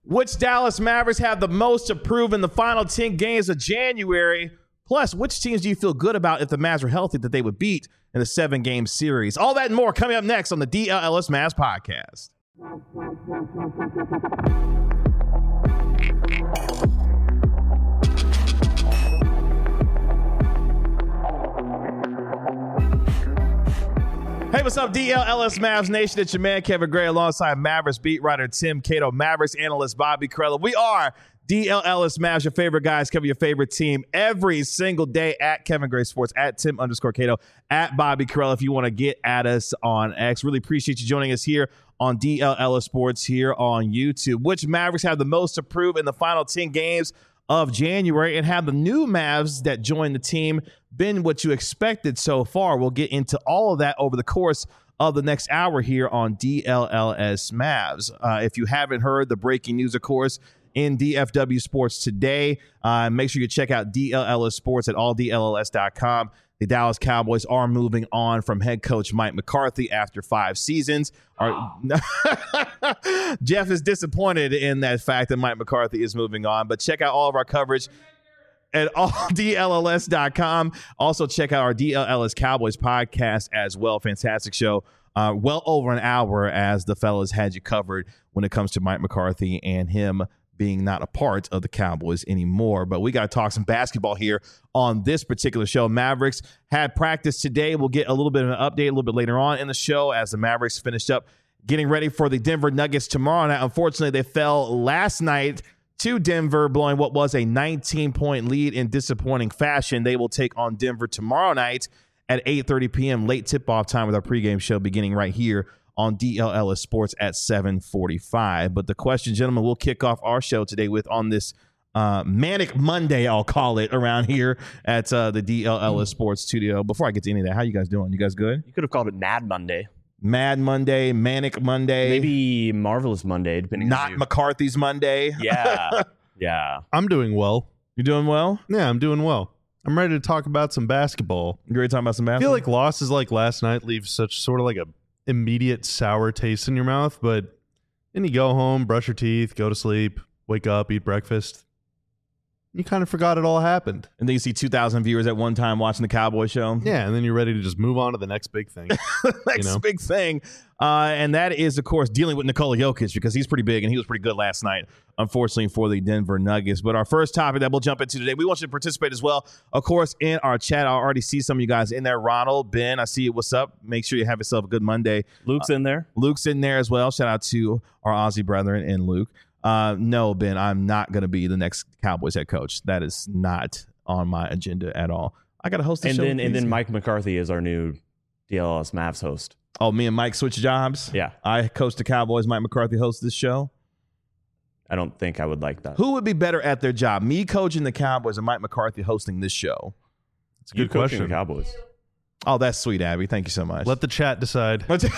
Which Dallas Mavericks have the most to prove in the final 10 games of January? Plus, which teams do you feel good about if the Mavs were healthy that they would beat in the 7-game series? All that and more coming up next on the DLLS Mavs podcast. Hey, what's up, DLLS Mavs Nation? It's your man, Kevin Gray, alongside Mavericks beat writer Tim Cato, Mavericks analyst Bobby Carella. We are DLLS Mavs, your favorite guys, cover your favorite team every single day at Kevin Gray Sports, at Tim_Cato, at Bobby Carella if you want to get at us on X. Really appreciate you joining us here on DLLS Sports here on YouTube. Which Mavericks have the most to prove in the final 10 games of January, and have the new Mavs that joined the team been what you expected so far? We'll get into all of that over the course of the next hour here on DLLS Mavs. If you haven't heard the breaking news, of course, in DFW Sports today, make sure you check out DLLS Sports at alldlls.com. The Dallas Cowboys are moving on from head coach Mike McCarthy after 5 seasons. Jeff is disappointed in that fact that Mike McCarthy is moving on, but check out all of our coverage at alldlls.com. Also, check out our DLLS Cowboys podcast as well. Fantastic show. Well over an hour as the fellas had you covered when it comes to Mike McCarthy and him being not a part of the Cowboys anymore. But we got to talk some basketball here on this particular show. Mavericks had practice today. We'll get a little bit of an update a little bit later on in the show as the Mavericks finished up getting ready for the Denver Nuggets tomorrow night. Unfortunately, they fell last night to Denver, blowing what was a 19-point lead in disappointing fashion. They will take on Denver tomorrow night at 8:30 p.m. Late tip-off time with our pregame show beginning right here on DLLS Sports at 7:45. But the question, gentlemen, we'll kick off our show today with on this Manic Monday, I'll call it, around here at the DLLS Sports studio. Before I get to any of that, how you guys doing? You guys good? You could have called it Mad Monday. Mad Monday, Manic Monday. Maybe Marvelous Monday, depending on Not McCarthy's Monday. Yeah. Yeah. I'm doing well. You doing well? Yeah, I'm doing well. I'm ready to talk about some basketball. You ready to talk about some I basketball? feel like losses like last night leave such sort of like a immediate sour taste in your mouth, but then you go home, brush your teeth, go to sleep, wake up, eat breakfast. You kind of forgot it all happened. And then you see 2,000 viewers at one time watching the Cowboy show. Yeah, and then you're ready to just move on to the next big thing. Next big thing. And that is, of course, dealing with Nikola Jokic, because he's pretty big and he was pretty good last night, unfortunately, for the Denver Nuggets. But our first topic that we'll jump into today, we want you to participate as well, of course, in our chat. I already see some of you guys in there. Ronald, Ben, I see you. What's up? Make sure you have yourself a good Monday. Luke's in there. Luke's in there as well. Shout out to our Aussie brethren and Luke. No, Ben, I'm not going to be the next Cowboys head coach. That is not on my agenda at all. I got to host the show. And then Mike McCarthy is our new DLLS Mavs host. Oh, me and Mike switch jobs? Yeah. I coach the Cowboys. Mike McCarthy hosts this show. I don't think I would like that. Who would be better at their job? Me coaching the Cowboys or Mike McCarthy hosting this show? It's a good coaching question. the Cowboys. Oh, that's sweet, Abby. Thank you so much. Let the chat decide. Because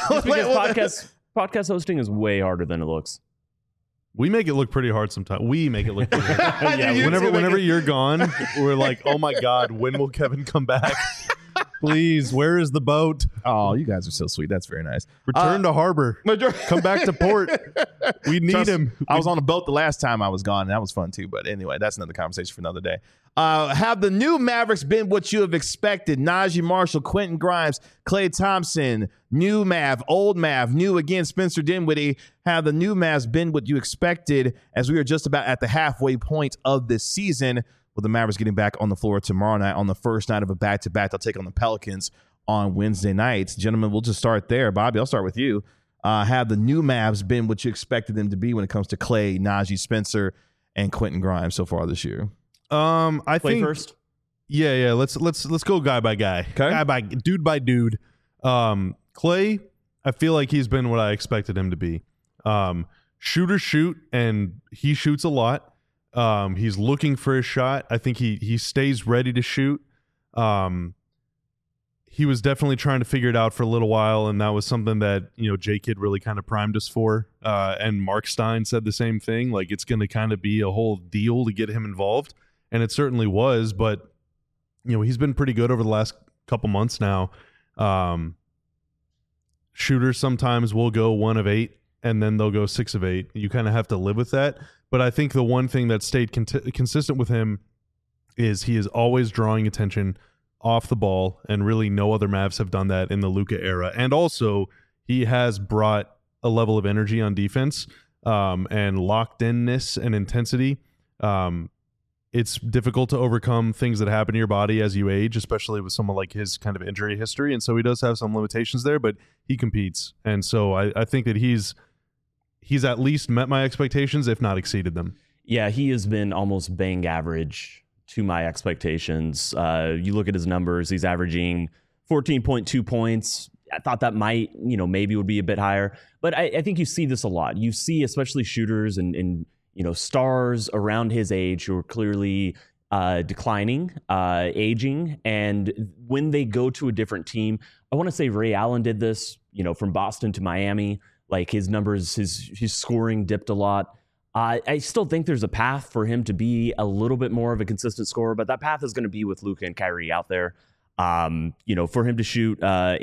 podcast hosting is way harder than it looks. We make it look pretty hard sometimes. We make it look pretty hard. Yeah, Whenever you're gone, we're like, oh my God, when will Kevin come back? Please, where is the boat? Oh, you guys are so sweet. That's very nice. Return to harbor. Come back to port. We need him. I was on a boat the last time I was gone, and that was fun too. But anyway, that's another conversation for another day. Have the new Mavericks been what you have expected? Najee Marshall, Quentin Grimes, Klay Thompson, new Mav, old Mav, new again, Spencer Dinwiddie. Have the new Mavs been what you expected as we are just about at the halfway point of this season, with the Mavericks getting back on the floor tomorrow night on the first night of a back-to-back? They'll take on the Pelicans on Wednesday night. Gentlemen, we'll just start there. Bobby, I'll start with you. Have the new Mavs been what you expected them to be when it comes to Klay, Najee, Spencer, and Quentin Grimes so far this year? I think first. Yeah. Let's go guy by guy. Okay. Guy by dude. Klay, I feel like he's been what I expected him to be. Shoot, and he shoots a lot. He's looking for his shot. I think he stays ready to shoot. He was definitely trying to figure it out for a little while, and that was something that, J-Kid really kind of primed us for. And Mark Stein said the same thing. Like, it's going to kind of be a whole deal to get him involved, and it certainly was. But he's been pretty good over the last couple months now. Shooters sometimes will go 1 of 8, and then they'll go 6 of 8. You kind of have to live with that. But I think the one thing that stayed consistent with him is he is always drawing attention off the ball, and really no other Mavs have done that in the Luka era. And also, he has brought a level of energy on defense and locked inness and intensity. It's difficult to overcome things that happen to your body as you age, especially with someone like his kind of injury history. And so he does have some limitations there, but he competes. And so I think that he's at least met my expectations, if not exceeded them. Yeah, he has been almost bang average to my expectations. You look at his numbers, he's averaging 14.2 points. I thought that might, maybe would be a bit higher. But I think you see this a lot. You see especially shooters and stars around his age who are clearly declining, aging. And when they go to a different team, I want to say Ray Allen did this, from Boston to Miami. Like his numbers, his scoring dipped a lot. I still think there's a path for him to be a little bit more of a consistent scorer, but that path is going to be with Luka and Kyrie out there. For him to shoot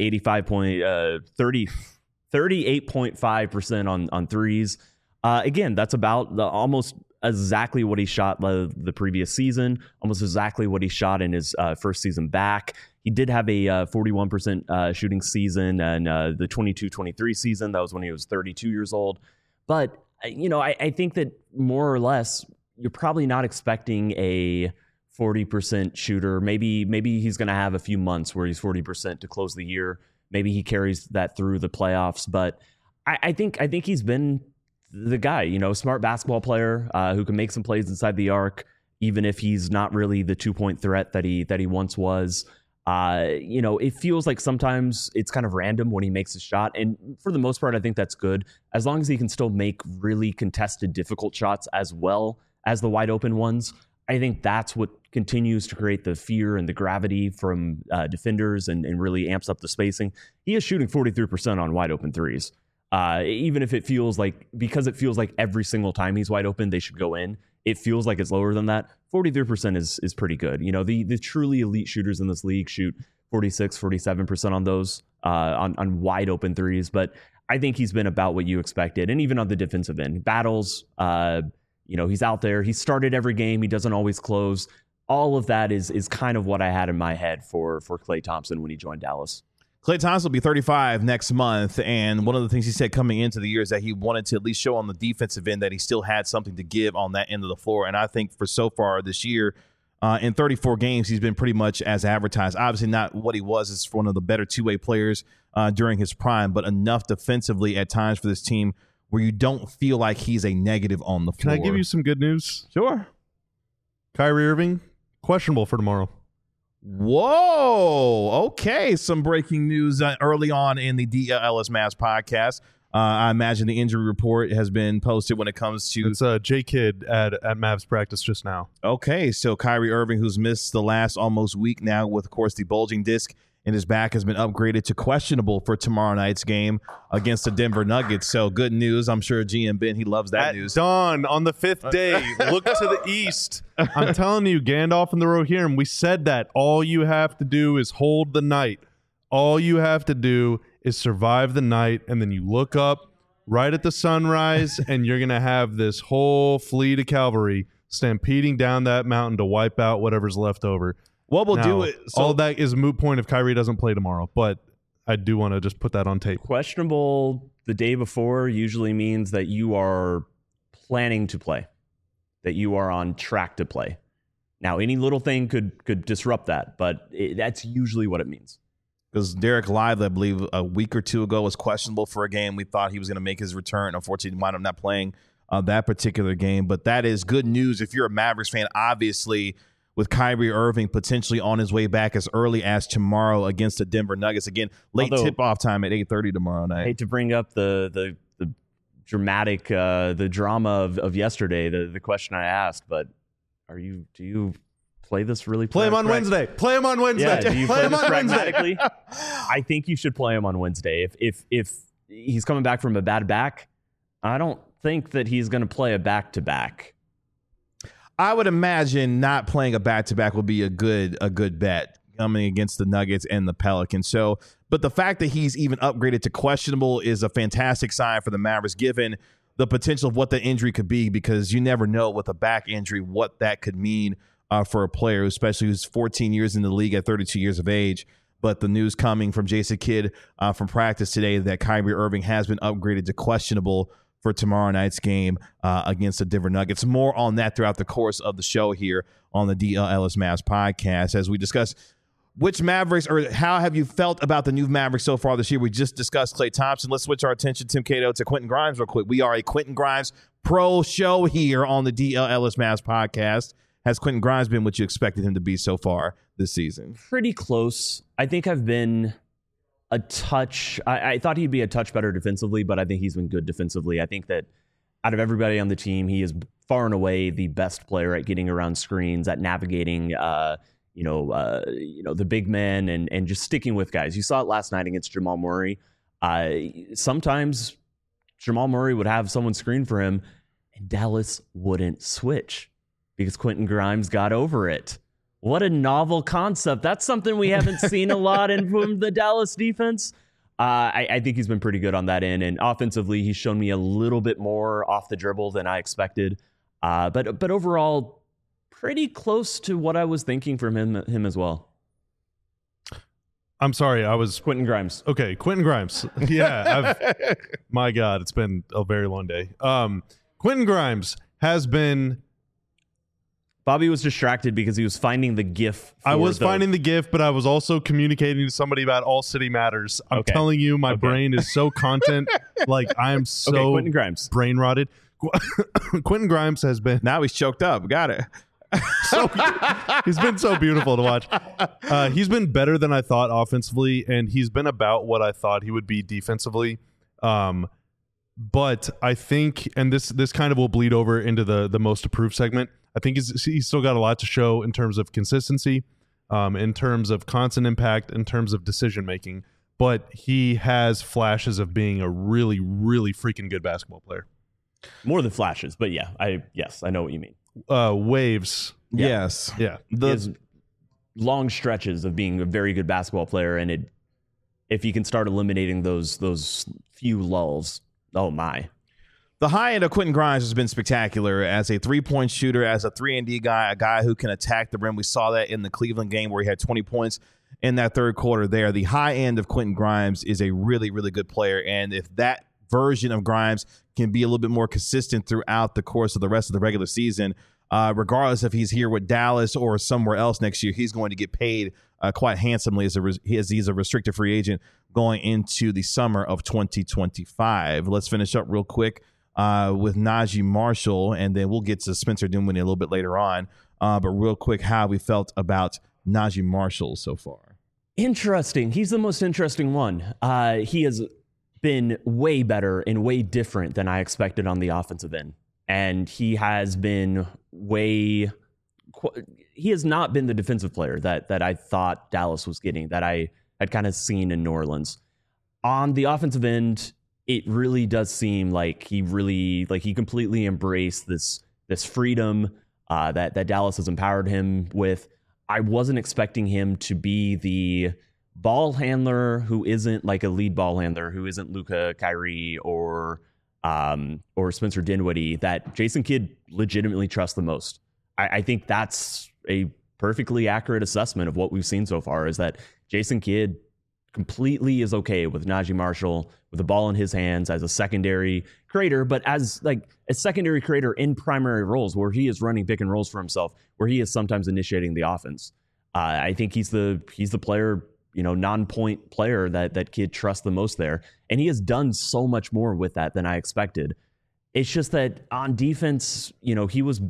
38.5% on threes. Again, that's about almost exactly what he shot the previous season, almost exactly what he shot in his first season back. He did have a 41% shooting season and the 22-23 season. That was when he was 32 years old. But I think that more or less, you're probably not expecting a 40% shooter. Maybe he's going to have a few months where he's 40% to close the year. Maybe he carries that through the playoffs. But I think he's been the guy, smart basketball player who can make some plays inside the arc, even if he's not really the 2-point threat that he once was. It feels like sometimes it's kind of random when he makes a shot. And for the most part, I think that's good. As long as he can still make really contested, difficult shots as well as the wide open ones, I think that's what continues to create the fear and the gravity from defenders and really amps up the spacing. He is shooting 43% on wide open threes. Even if because it feels like every single time he's wide open, they should go in. It feels like it's lower than that. 43% is pretty good. The truly elite shooters in this league shoot 46, 47% on those on wide open threes. But I think he's been about what you expected. And even on the defensive end, battles, he's out there. He started every game. He doesn't always close. All of that is kind of what I had in my head for Klay Thompson when he joined Dallas. Klay Thompson will be 35 next month, and one of the things he said coming into the year is that he wanted to at least show on the defensive end that he still had something to give on that end of the floor. And I think for so far this year, in 34 games, he's been pretty much as advertised. Obviously not what he was as one of the better two-way players during his prime, but enough defensively at times for this team where you don't feel like he's a negative on the floor. Can I give you some good news? Sure. Kyrie Irving, questionable for tomorrow. Whoa. Okay. Some breaking news early on in the DLS Mavs podcast. I imagine the injury report has been posted when it comes to... It's J-Kid at Mavs practice just now. Okay. So Kyrie Irving, who's missed the last almost week now with, of course, the bulging disc in his back, has been upgraded to questionable for tomorrow night's game against the Denver Nuggets. So good news. I'm sure GM Ben, he loves that news. Dawn on the fifth day, look to the east. I'm telling you, Gandalf and the Rohirrim, we said that. All you have to do is hold the night. All you have to do is survive the night, and then you look up right at the sunrise, and you're going to have this whole fleet of cavalry stampeding down that mountain to wipe out whatever's left over. What we'll do it. So, all that is a moot point if Kyrie doesn't play tomorrow, but I do want to just put that on tape. Questionable the day before usually means that you are planning to play, that you are on track to play. Now, any little thing could disrupt that, but that's usually what it means. Because Derek Lively, I believe, a week or two ago was questionable for a game. We thought he was going to make his return. Unfortunately, he wound up not playing that particular game. But that is good news if you're a Mavericks fan, obviously, with Kyrie Irving potentially on his way back as early as tomorrow against the Denver Nuggets. Again, late tip-off time at 8:30 tomorrow night. I hate to bring up the dramatic, the drama of yesterday, the question I asked, but do you play this really? Play him on Wednesday. Play him on Wednesday. Yeah, do you play this pragmatically? I think you should play him on Wednesday. If he's coming back from a bad back, I don't think that he's going to play a back-to-back. I would imagine not playing a back-to-back would be a good bet coming against the Nuggets and the Pelicans. But the fact that he's even upgraded to questionable is a fantastic sign for the Mavericks, given the potential of what the injury could be, because you never know with a back injury what that could mean for a player, especially who's 14 years in the league at 32 years of age. But the news coming from Jason Kidd from practice today that Kyrie Irving has been upgraded to questionable for tomorrow night's game against the Denver Nuggets. More on that throughout the course of the show here on the DL Ellis Mavs podcast as we discuss which Mavericks, or how have you felt about the new Mavericks so far this year? We just discussed Klay Thompson. Let's switch our attention, Tim Cato, to Quentin Grimes real quick. We are a Quentin Grimes pro show here on the DL Ellis Mavs podcast. Has Quentin Grimes been what you expected him to be so far this season? Pretty close. I think I've been a touch. I thought he'd be a touch better defensively, but I think he's been good defensively. I think that out of everybody on the team, he is far and away the best player at getting around screens, at navigating the big men and just sticking with guys. You saw it last night against Jamal Murray. Sometimes Jamal Murray would have someone screen for him and Dallas wouldn't switch because Quentin Grimes got over it. What a novel concept. That's something we haven't seen a lot from the Dallas defense. I think he's been pretty good on that end. And offensively, he's shown me a little bit more off the dribble than I expected. But overall, pretty close to what I was thinking from him as well. I'm sorry, I was Quentin Grimes. Okay, Quentin Grimes. Yeah, my God, it's been a very long day. Quentin Grimes has been. Bobby was distracted because he was finding the GIF. I was finding the GIF, but I was also communicating to somebody about All City Matters. I'm telling you, my brain is so content. Like, I am so Quentin Grimes. Brain rotted. Quentin Grimes has been. Now he's choked up. Got it. He's been so beautiful to watch. He's been better than I thought offensively, and he's been about what I thought he would be defensively. But I think, and this kind of will bleed over into the most approved segment, I think he's still got a lot to show in terms of consistency, in terms of constant impact, in terms of decision making. But he has flashes of being a really, really freaking good basketball player. More than flashes, but yeah, I know what you mean. Waves. Yes. Yeah. His long stretches of being a very good basketball player, and if he can start eliminating those few lulls, oh my. The high end of Quentin Grimes has been spectacular as a three-point shooter, as a 3-and-D guy, a guy who can attack the rim. We saw that in the Cleveland game where he had 20 points in that third quarter there. The high end of Quentin Grimes is a really, really good player, and if that version of Grimes can be a little bit more consistent throughout the course of the rest of the regular season, regardless if he's here with Dallas or somewhere else next year, he's going to get paid quite handsomely as he's a restricted free agent going into the summer of 2025. Let's finish up real quick with Najee Marshall, and then we'll get to Spencer Dinwiddie a little bit later on. But real quick, how we felt about Najee Marshall so far. Interesting. He's the most interesting one. He has been way better and way different than I expected on the offensive end. And he has been he has not been the defensive player that I thought Dallas was getting, that I had kind of seen in New Orleans. On the offensive end, it really does seem like he completely embraced this freedom that Dallas has empowered him with. I wasn't expecting him to be the ball handler who isn't like a lead ball handler, who isn't Luka, Kyrie, or Spencer Dinwiddie, that Jason Kidd legitimately trusts the most. I think that's a perfectly accurate assessment of what we've seen so far, is that Jason Kidd completely is okay with Najee Marshall with the ball in his hands as a secondary creator, but as like a secondary creator in primary roles where he is running pick and rolls for himself, where he is sometimes initiating the offense. I think he's the player, non-point player that Kidd trusts the most there. And he has done so much more with that than I expected. It's just that on defense, he was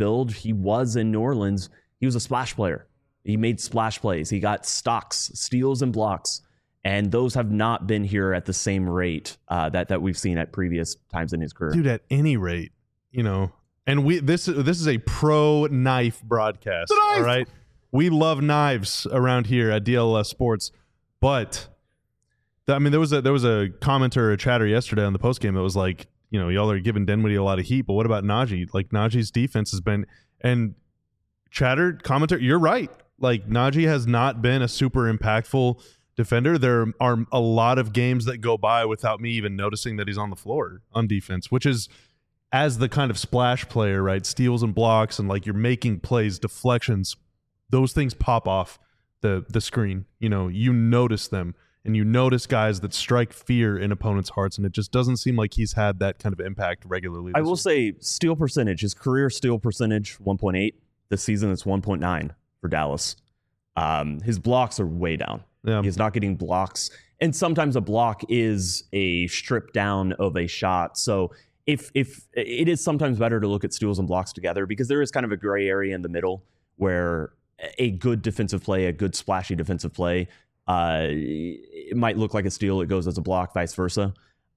in New Orleans. He was a splash player. He made splash plays. He got stocks, steals, and blocks. And those have not been here at the same rate that we've seen at previous times in his career. Dude, at any rate, and this is a pro knife broadcast. All right. We love knives around here at DLS Sports. But there was a commenter or a chatter yesterday on the postgame that was like, y'all are giving Dinwiddie a lot of heat, but what about Najee? Like, Najee's defense has been, and commenter, you're right. Like, Najee has not been a super impactful defender. There are a lot of games that go by without me even noticing that he's on the floor on defense, which is as the kind of splash player, right? Steals and blocks, and like you're making plays, deflections, those things pop off the screen. You notice them, and you notice guys that strike fear in opponents' hearts, and it just doesn't seem like he's had that kind of impact regularly. I will say steal percentage, his career steal percentage, 1.8. This season, it's 1.9 for Dallas. His blocks are way down. Yeah. He's not getting blocks. And sometimes a block is a strip down of a shot. So if it is sometimes better to look at steals and blocks together, because there is kind of a gray area in the middle where a good defensive play, a good splashy defensive play, it might look like a steal. It goes as a block, vice versa.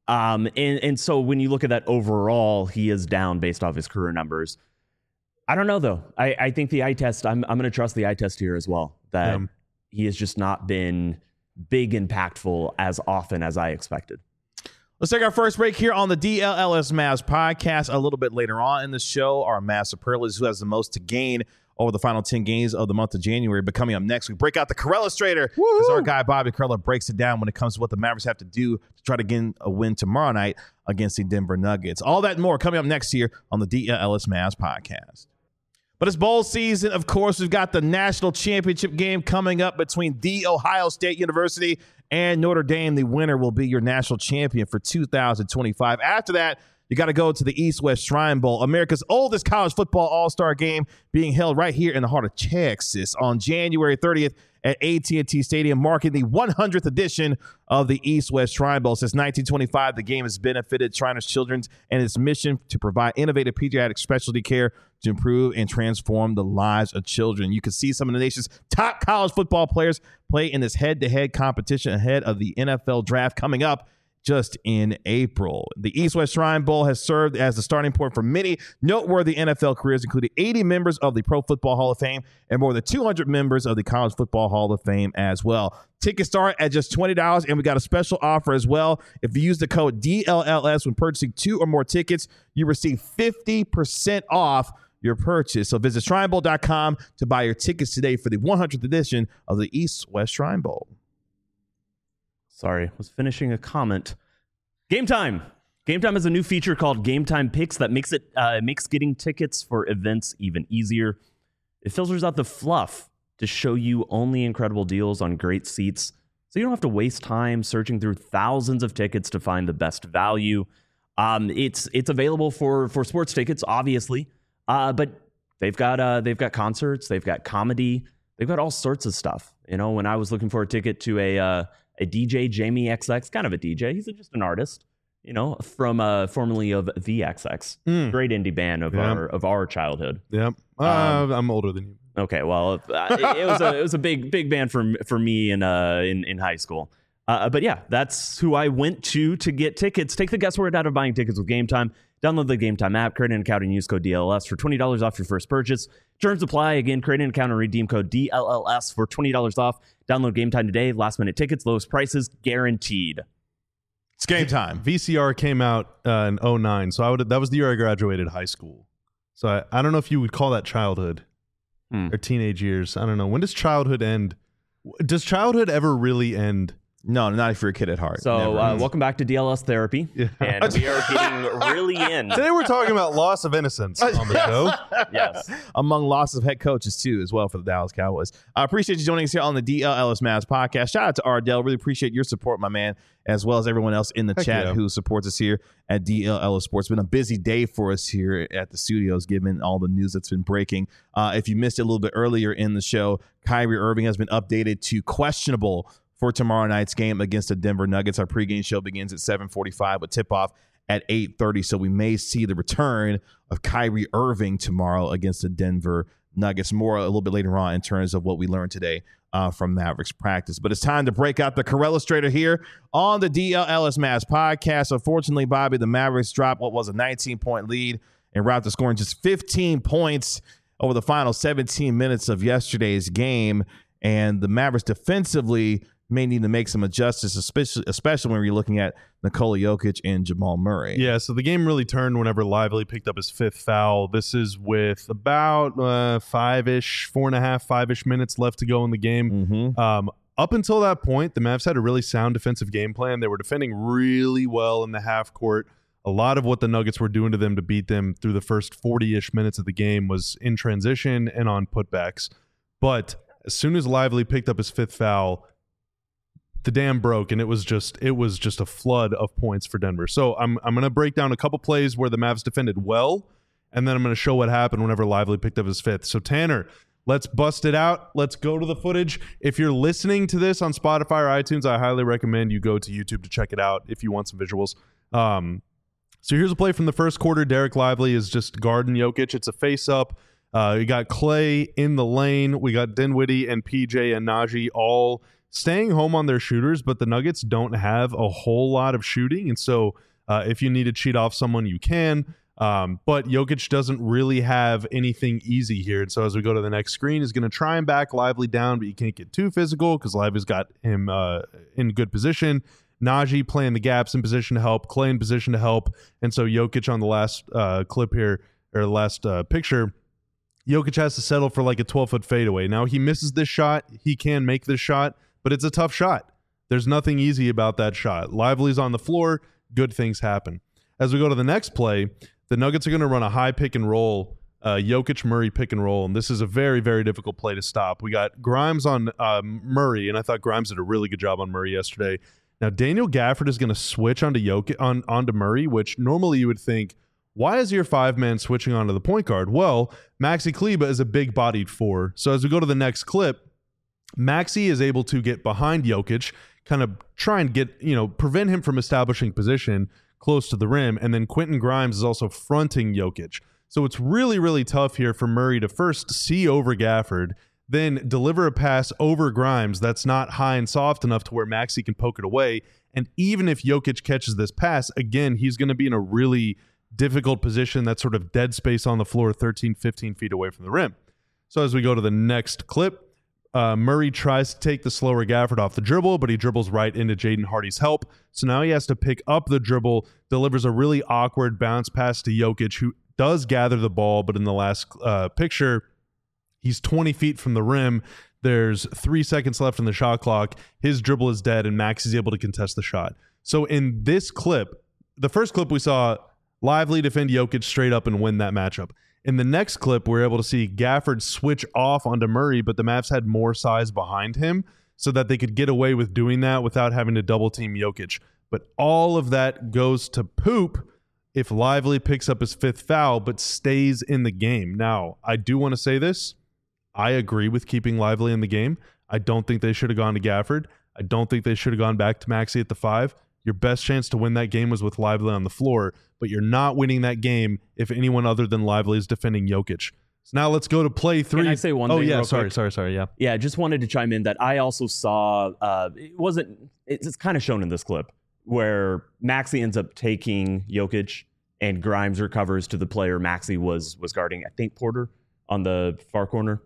And so when you look at that overall, he is down based off his career numbers. I don't know, though. I think the eye test, I'm going to trust the eye test here as well, that he has just not been big impactful as often as I expected. Let's take our first break here on the DLLS Mavs podcast. A little bit later on in the show, our Mavs superlatives, who has the most to gain over the final 10 games of the month of January. But coming up next, we break out the Corellustrator as our guy Bobby Karalla breaks it down when it comes to what the Mavericks have to do to try to get a win tomorrow night against the Denver Nuggets. All that and more coming up next here on the DLLS Mavs podcast. But it's bowl season, of course. We've got the national championship game coming up between The Ohio State University and Notre Dame. The winner will be your national champion for 2025. After that, you got to go to the East-West Shrine Bowl, America's oldest college football all-star game, being held right here in the heart of Texas on January 30th at AT&T Stadium, marking the 100th edition of the East-West Shrine Bowl. Since 1925, the game has benefited Shriners Children's and its mission to provide innovative pediatric specialty care to improve and transform the lives of children. You can see some of the nation's top college football players play in this head-to-head competition ahead of the NFL draft coming up just in April. The East-West Shrine Bowl has served as the starting point for many noteworthy NFL careers, including 80 members of the Pro Football Hall of Fame and more than 200 members of the College Football Hall of Fame as well. Tickets start at just $20, and we got a special offer as well. If you use the code DLLS when purchasing 2 or more tickets, you receive 50% off your purchase. So visit ShrineBowl.com to buy your tickets today for the 100th edition of the East-West Shrine Bowl. Sorry, was finishing a comment. Game Time. Game Time is a new feature called Game Time Picks that makes getting tickets for events even easier. It filters out the fluff to show you only incredible deals on great seats, so you don't have to waste time searching through thousands of tickets to find the best value. It's available for sports tickets, obviously, but they've got concerts, they've got comedy, they've got all sorts of stuff. You know, when I was looking for a ticket to a DJ, Jamie XX, kind of a DJ. He's just an artist, you know, from formerly of the XX, great indie band of our childhood. Yep, I'm older than you. Okay, well, it was a big band for me in high school. But yeah, that's who I went to get tickets. Take the guesswork out of buying tickets with Game Time. Download the Game Time app, create an account, and use code DLLS for $20 off your first purchase. Terms apply. Again, create an account and redeem code DLLS for $20 off. Download Game Time today. Last minute tickets, lowest prices guaranteed. It's game time. VCR came out in 2009, so that was the year I graduated high school. So I don't know if you would call that childhood or teenage years. I don't know. When does childhood end? Does childhood ever really end? No, not if you're a kid at heart. So welcome back to DLS Therapy. Yeah. And we are getting really in. Today we're talking about loss of innocence on the show. Yes. Among loss of head coaches, too, as well, for the Dallas Cowboys. I appreciate you joining us here on the DLLS Mavs podcast. Shout out to Ardell. Really appreciate your support, my man, as well as everyone else in the chat who supports us here at DLLS Sports. It's been a busy day for us here at the studios, given all the news that's been breaking. If you missed it a little bit earlier in the show, Kyrie Irving has been updated to questionable for tomorrow night's game against the Denver Nuggets. Our pregame show begins at 7:45 with tip-off at 8:30, so we may see the return of Kyrie Irving tomorrow against the Denver Nuggets. More a little bit later on in terms of what we learned today from Mavericks practice. But it's time to break out the Corellustrator here on the DLLS Mavs podcast. Unfortunately, Bobby, the Mavericks dropped what was a 19-point lead and route to scoring just 15 points over the final 17 minutes of yesterday's game. And the Mavericks defensively may need to make some adjustments, especially when you're looking at Nikola Jokic and Jamal Murray. Yeah, so the game really turned whenever Lively picked up his fifth foul. This is with about 4.5-5-ish minutes left to go in the game. Up until that point, the Mavs had a really sound defensive game plan. They were defending really well in the half court. A lot of what the Nuggets were doing to them to beat them through the first 40-ish minutes of the game was in transition and on putbacks. But as soon as Lively picked up his 5th foul, the dam broke, and it was just a flood of points for Denver. So I'm going to break down a couple plays where the Mavs defended well, and then I'm going to show what happened whenever Lively picked up his 5th. So Tanner, let's bust it out. Let's go to the footage. If you're listening to this on Spotify or iTunes, I highly recommend you go to YouTube to check it out if you want some visuals. So here's a play from the first quarter. Derek Lively is just guarding Jokic. It's a face-up. We got Clay in the lane. We got Dinwiddie and PJ and Najee all staying home on their shooters, but the Nuggets don't have a whole lot of shooting. And so if you need to cheat off someone, you can. But Jokic doesn't really have anything easy here. And so as we go to the next screen, he's going to try and back Lively down, but you can't get too physical because Lively's got him in good position. Najee playing the gaps in position to help, Clay in position to help. And so Jokic on the last clip here, or the last picture, Jokic has to settle for like a 12-foot fadeaway. Now he misses this shot. He can make this shot, but it's a tough shot. There's nothing easy about that shot. Lively's on the floor. Good things happen. As we go to the next play, the Nuggets are going to run a high pick and roll, Jokic-Murray pick and roll, and this is a very, very difficult play to stop. We got Grimes on Murray, and I thought Grimes did a really good job on Murray yesterday. Now, Daniel Gafford is going to switch onto onto Murray, which normally you would think, why is your 5-man switching onto the point guard? Well, Maxi Kleber is a big-bodied 4. So as we go to the next clip, Maxi is able to get behind Jokic, kind of try and get, prevent him from establishing position close to the rim, and then Quentin Grimes is also fronting Jokic. So it's really, really tough here for Murray to first see over Gafford, then deliver a pass over Grimes that's not high and soft enough to where Maxi can poke it away. And even if Jokic catches this pass, again, he's going to be in a really difficult position, that sort of dead space on the floor, 13, 15 feet away from the rim. So as we go to the next clip, Murray tries to take the slower Gafford off the dribble, but he dribbles right into Jaden Hardy's help. So now he has to pick up the dribble, delivers a really awkward bounce pass to Jokic, who does gather the ball, but in the last picture, he's 20 feet from the rim. There's 3 seconds left on the shot clock. His dribble is dead, and Max is able to contest the shot. So in this clip, the first clip we saw Lively defend Jokic straight up and win that matchup. In the next clip, we're able to see Gafford switch off onto Murray, but the Mavs had more size behind him so that they could get away with doing that without having to double team Jokic. But all of that goes to poop if Lively picks up his 5th foul but stays in the game. Now, I do want to say this. I agree with keeping Lively in the game. I don't think they should have gone to Gafford. I don't think they should have gone back to Maxi at the 5. Your best chance to win that game was with Lively on the floor, but you're not winning that game if anyone other than Lively is defending Jokic. So now let's go to play 3. Can I say one thing? Oh, yeah. real Sorry. quick? Yeah. Yeah, just wanted to chime in that I also saw, it's kind of shown in this clip, where Maxi ends up taking Jokic and Grimes recovers to the player Maxi was guarding, I think Porter, on the far corner.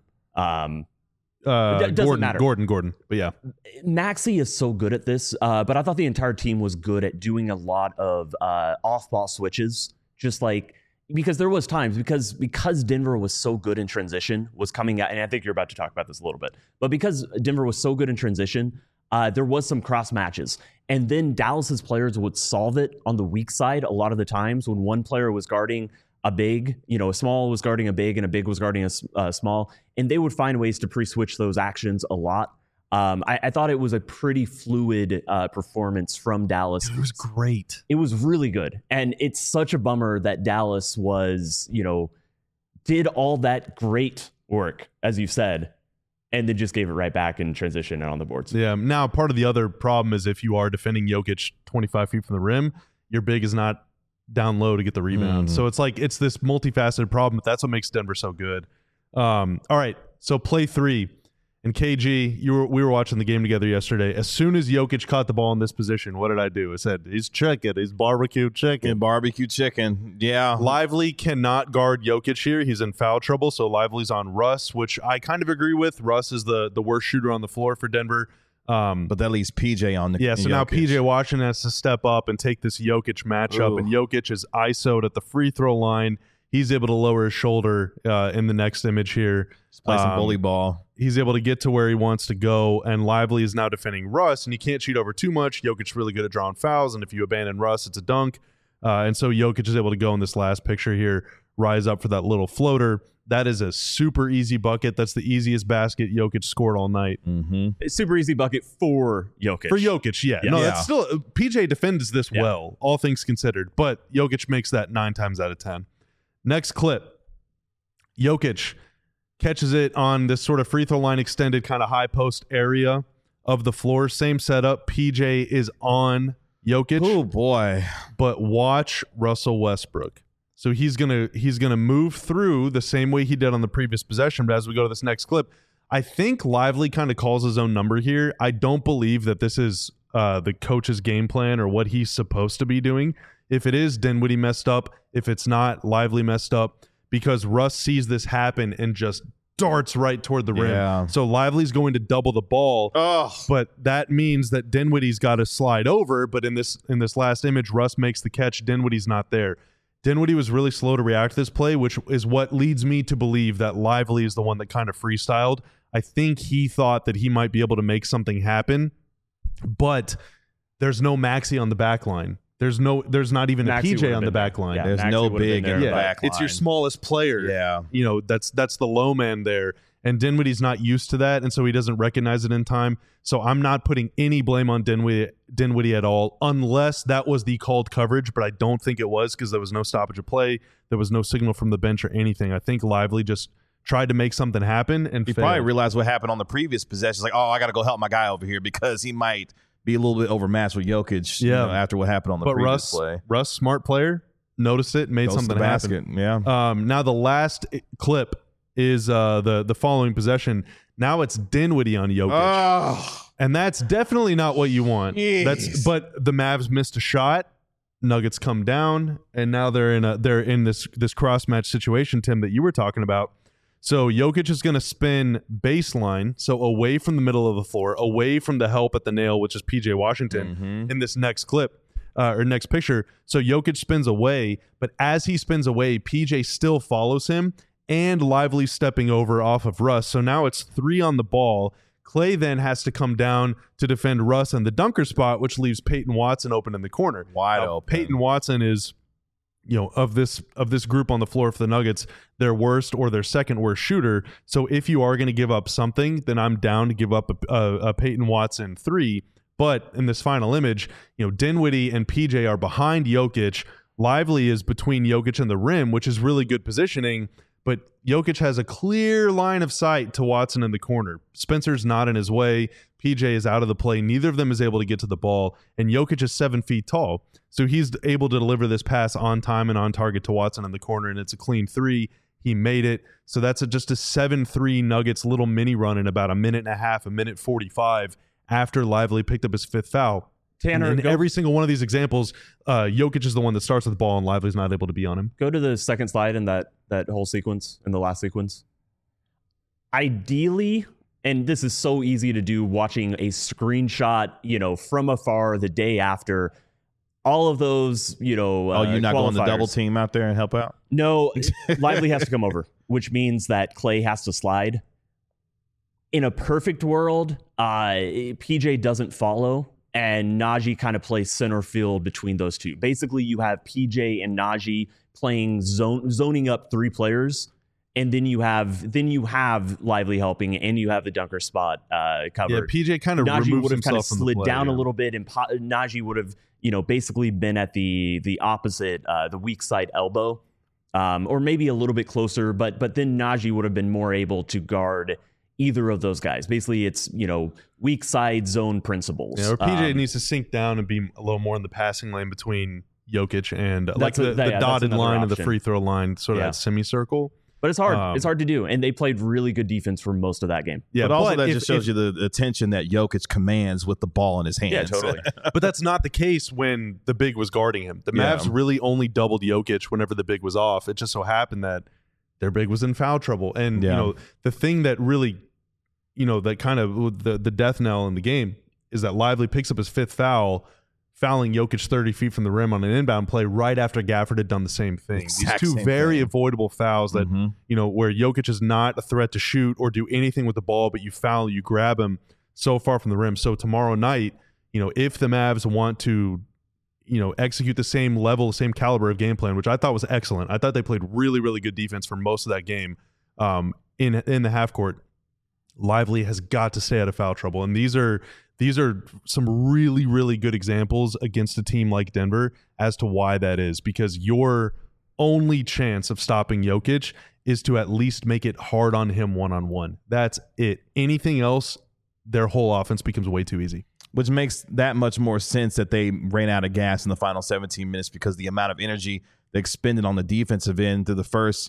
Doesn't matter. Gordon. But yeah. Maxi is so good at this, but I thought the entire team was good at doing a lot of off-ball switches, just like because there was times because Denver was so good in transition, was coming out, and I think you're about to talk about this a little bit, but because Denver was so good in transition, there was some cross matches, and then Dallas's players would solve it on the weak side a lot of the times when one player was guarding a big, a small was guarding a big and a big was guarding a small, and they would find ways to pre-switch those actions a lot. I thought it was a pretty fluid performance from Dallas. It was great. It was really good. And it's such a bummer that Dallas was, did all that great work, as you said, and then just gave it right back in transition and on the boards. Yeah. Now, part of the other problem is if you are defending Jokic 25 feet from the rim, your big is not down low to get the rebound. So it's like it's this multifaceted problem, but that's what makes Denver so good. All right. So play 3. And KG, we were watching the game together yesterday. As soon as Jokic caught the ball in this position, what did I do? I said, he's chicken. He's barbecue chicken. Yeah, barbecue chicken. Yeah. Lively cannot guard Jokic here. He's in foul trouble, so Lively's on Russ, which I kind of agree with. Russ is the worst shooter on the floor for Denver. But that leaves PJ on the Yeah, so now PJ Washington has to step up and take this Jokic matchup, and Jokic is ISO'd at the free throw line. He's able to lower his shoulder in the next image here. Just play some bully ball. He's able to get to where he wants to go, and Lively is now defending Russ, and he can't cheat over too much. Jokic's really good at drawing fouls, and if you abandon Russ, it's a dunk. And so Jokic is able to go in this last picture here, rise up for that little floater. That is a super easy bucket. That's the easiest basket Jokic scored all night. It's super easy bucket for Jokic. For Jokic, yeah. No, that's still PJ defends this well, all things considered. But Jokic makes that 9 times out of 10. Next clip. Jokic catches it on this sort of free throw line extended kind of high post area of the floor. Same setup. PJ is on Jokic. Oh boy. But watch Russell Westbrook. So he's gonna move through the same way he did on the previous possession. But as we go to this next clip, I think Lively kind of calls his own number here. I don't believe that this is the coach's game plan or what he's supposed to be doing. If it is, Dinwiddie messed up. If it's not, Lively messed up, because Russ sees this happen and just darts right toward the rim. Yeah. So Lively's going to double the ball, but that means that Dinwiddie's got to slide over. But in this last image, Russ makes the catch. Dinwiddie's not there. Dinwiddie was really slow to react to this play, which is what leads me to believe that Lively is the one that kind of freestyled. I think he thought that he might be able to make something happen, but there's no Maxey on the back line. There's not even Maxey a PJ on the back line. There's Maxey no would've been big there. in the back line. It's your smallest player. Yeah. That's the low man there. And Dinwiddie's not used to that, and so he doesn't recognize it in time. So I'm not putting any blame on Dinwiddie at all, unless that was the called coverage, but I don't think it was, because there was no stoppage of play. There was no signal from the bench or anything. I think Lively just tried to make something happen and he failed. probably realized what happened on the previous possession. Like, I got to go help my guy over here, because he might be a little bit overmatched with Jokic after what happened on the previous play. Russ, smart player, noticed it, made Goes to something the basket. happen. Yeah. Now the last clip is the following possession. Now it's Dinwiddie on Jokic. And that's definitely not what you want. But the Mavs missed a shot. Nuggets come down, and now they're in this cross match situation, Tim, that you were talking about. So Jokic is going to spin baseline, so away from the middle of the floor, away from the help at the nail, which is PJ Washington, in this next clip or next picture. So Jokic spins away, but as he spins away, PJ still follows him, and Lively stepping over off of Russ. So now it's 3 on the ball. Clay then has to come down to defend Russ in the dunker spot, which leaves Peyton Watson open in the corner. Wide open. Peyton Watson is, of this group on the floor for the Nuggets, their worst or their second worst shooter. So if you are going to give up something, then I'm down to give up a Peyton Watson 3. But in this final image, Dinwiddie and PJ are behind Jokic. Lively is between Jokic and the rim, which is really good positioning. But Jokic has a clear line of sight to Watson in the corner. Spencer's not in his way. PJ is out of the play. Neither of them is able to get to the ball. And Jokic is 7 feet tall. So he's able to deliver this pass on time and on target to Watson in the corner, and it's a clean 3. He made it. So that's just a 7-3 Nuggets little mini run in about a minute and a half, a minute 45, after Lively picked up his 5th foul. Tanner, in every single one of these examples, Jokic is the one that starts with the ball, and Lively's not able to be on him. Go to the second slide in that whole sequence, in the last sequence. Ideally, and this is so easy to do watching a screenshot, from afar the day after, all of those, you're not going to double qualifiers. team out there and help out? No, Lively has to come over, which means that Clay has to slide. In a perfect world, PJ doesn't follow, and Najee kind of plays center field between those two. Basically, you have PJ and Najee playing zoning up 3 players, and then you have Lively helping, and you have the dunker spot covered. Yeah, PJ kind of Najee removes would have kind of himself from the slid play, down a little bit, and Najee would have basically been at the opposite, the weak side elbow, or maybe a little bit closer. But then Najee would have been more able to guard either of those guys. Basically, it's weak side zone principles. Yeah, or PJ needs to sink down and be a little more in the passing lane between Jokic and the dotted line and the free throw line, sort of that semicircle. But it's hard. It's hard to do, and they played really good defense for most of that game. Yeah, but also that just shows you the attention that Jokic commands with the ball in his hands. Yeah, totally. But that's not the case when the big was guarding him. The Mavs really only doubled Jokic whenever the big was off. It just so happened that their big was in foul trouble, and the thing that really, that kind of the death knell in the game is that Lively picks up his 5th foul, fouling Jokic 30 feet from the rim on an inbound play right after Gafford had done the same thing. These two very avoidable fouls that, where Jokic is not a threat to shoot or do anything with the ball, but you foul, you grab him so far from the rim. So tomorrow night, if the Mavs want to, execute the same level, same caliber of game plan, which I thought was excellent. I thought they played really, really good defense for most of that game in the half court. Lively has got to stay out of foul trouble. And these are some really, really good examples against a team like Denver as to why that is, because your only chance of stopping Jokic is to at least make it hard on him one-on-one. That's it. Anything else, their whole offense becomes way too easy. Which makes that much more sense that they ran out of gas in the final 17 minutes, because the amount of energy they expended on the defensive end through the first,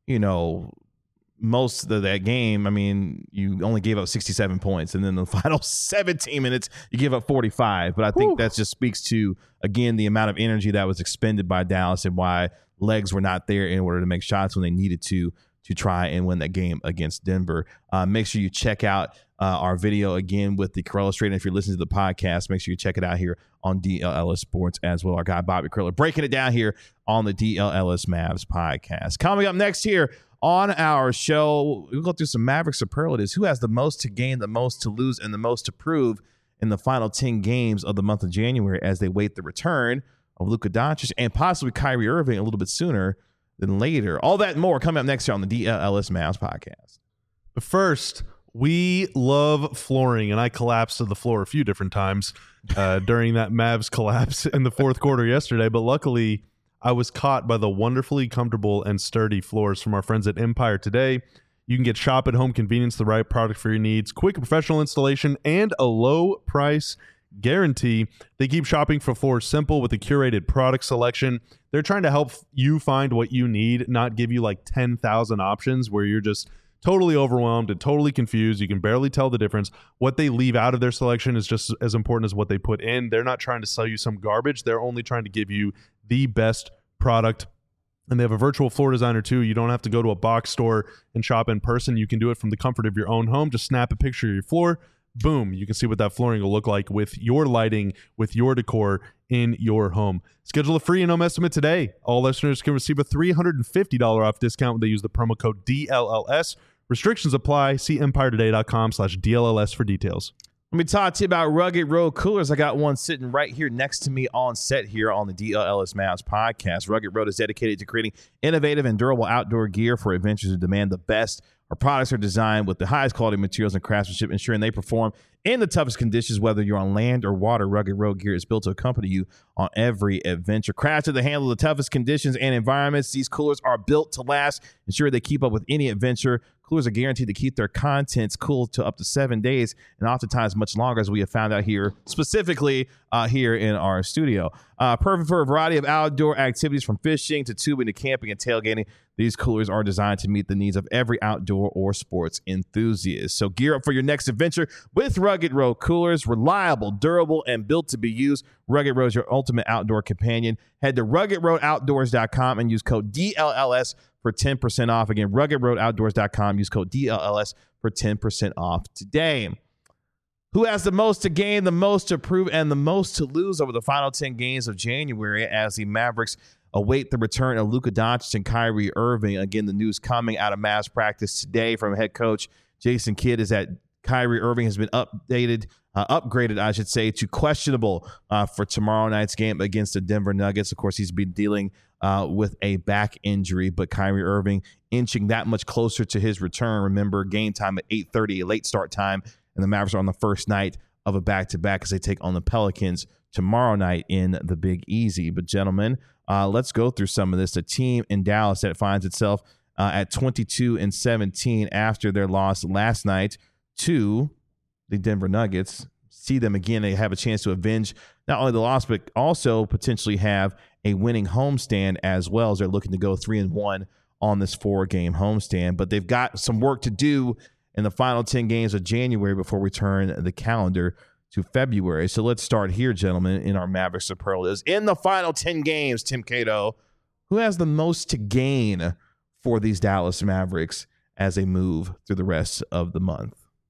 most of that game. I mean, you only gave up 67 points, and then the final 17 minutes, you give up 45. But I think that just speaks to, again, the amount of energy that was expended by Dallas and why legs were not there in order to make shots when they needed to try and win that game against Denver. Make sure you check out our video again with the Corellis Trading. If you're listening to the podcast, make sure you check it out here on DLLS Sports as well. Our guy Bobby Curler breaking it down here on the DLLS Mavs podcast. Coming up next here on our show, we'll go through some Mavericks superlatives. Who has the most to gain, the most to lose, and the most to prove in the final 10 games of the month of January as they wait the return of Luka Doncic and possibly Kyrie Irving a little bit sooner than later. All that and more coming up next year on the DLLS Mavs podcast. But first, we love flooring, and I collapsed to the floor a few different times during that Mavs collapse in the fourth quarter yesterday. But luckily, I was caught by the wonderfully comfortable and sturdy floors from our friends at Empire Today. You can get shop at home convenience, the right product for your needs, quick professional installation, and a low price guarantee. They keep shopping for floors simple with a curated product selection. They're trying to help you find what you need, not give you like 10,000 options where you're just totally overwhelmed and totally confused. You can barely tell the difference. What they leave out of their selection is just as important as what they put in. They're not trying to sell you some garbage. They're only trying to give you the best product. And they have a virtual floor designer too. You don't have to go to a box store and shop in person. You can do it from the comfort of your own home. Just snap a picture of your floor. Boom. You can see what that flooring will look like with your lighting, with your decor in your home. Schedule a free in-home estimate today. All listeners can receive a $350 off discount when they use the promo code DLLS. Restrictions apply. See EmpireToday.com/DLLS for details. Let me talk to you about Rugged Road Coolers. I got one sitting right here next to me on set here on the DLLS Mavs podcast. Rugged Road is dedicated to creating innovative and durable outdoor gear for adventures who demand the best. Our products are designed with the highest quality materials and craftsmanship, ensuring they perform in the toughest conditions, whether you're on land or water. Rugged Road gear is built to accompany you on every adventure. Crafted to handle the toughest conditions and environments, these coolers are built to last, ensure they keep up with any adventure. Coolers are guaranteed to keep their contents cool to up to 7 days, and oftentimes much longer, as we have found out here, specifically here in our studio. Perfect for a variety of outdoor activities, from fishing to tubing to camping and tailgating. These coolers are designed to meet the needs of every outdoor or sports enthusiast. So gear up for your next adventure with Rugged Road Coolers. Reliable, durable, and built to be used. Rugged Road is your ultimate outdoor companion. Head to RuggedRoadOutdoors.com and use code DLLS for 10% off. Again, RuggedRoadOutdoors.com. Use code DLLS for 10% off today. Who has the most to gain, the most to prove, and the most to lose over the final 10 games of January as the Mavericks await the return of Luka Doncic and Kyrie Irving? Again, the news coming out of Mavs practice today from head coach Jason Kidd is that Kyrie Irving has been upgraded, I should say, to questionable for tomorrow night's game against the Denver Nuggets. Of course, he's been dealing with a back injury, but Kyrie Irving inching that much closer to his return. Remember, game time at 8:30, a late start time, and the Mavericks are on the first night of a back-to-back as they take on the Pelicans tomorrow night in the Big Easy. But gentlemen, let's go through some of this. A team in Dallas that finds itself at 22-17 after their loss last night to the Denver Nuggets. See them again. They have a chance to avenge not only the loss, but also potentially have a winning homestand as well, as they're looking to go 3-1 on this 4-game homestand. But they've got some work to do in the final 10 games of January before we turn the calendar to February. So let's start here, gentlemen, in our Mavericks superlatives. In the final 10 games, Tim Cato, who has the most to gain for these Dallas Mavericks as they move through the rest of the month?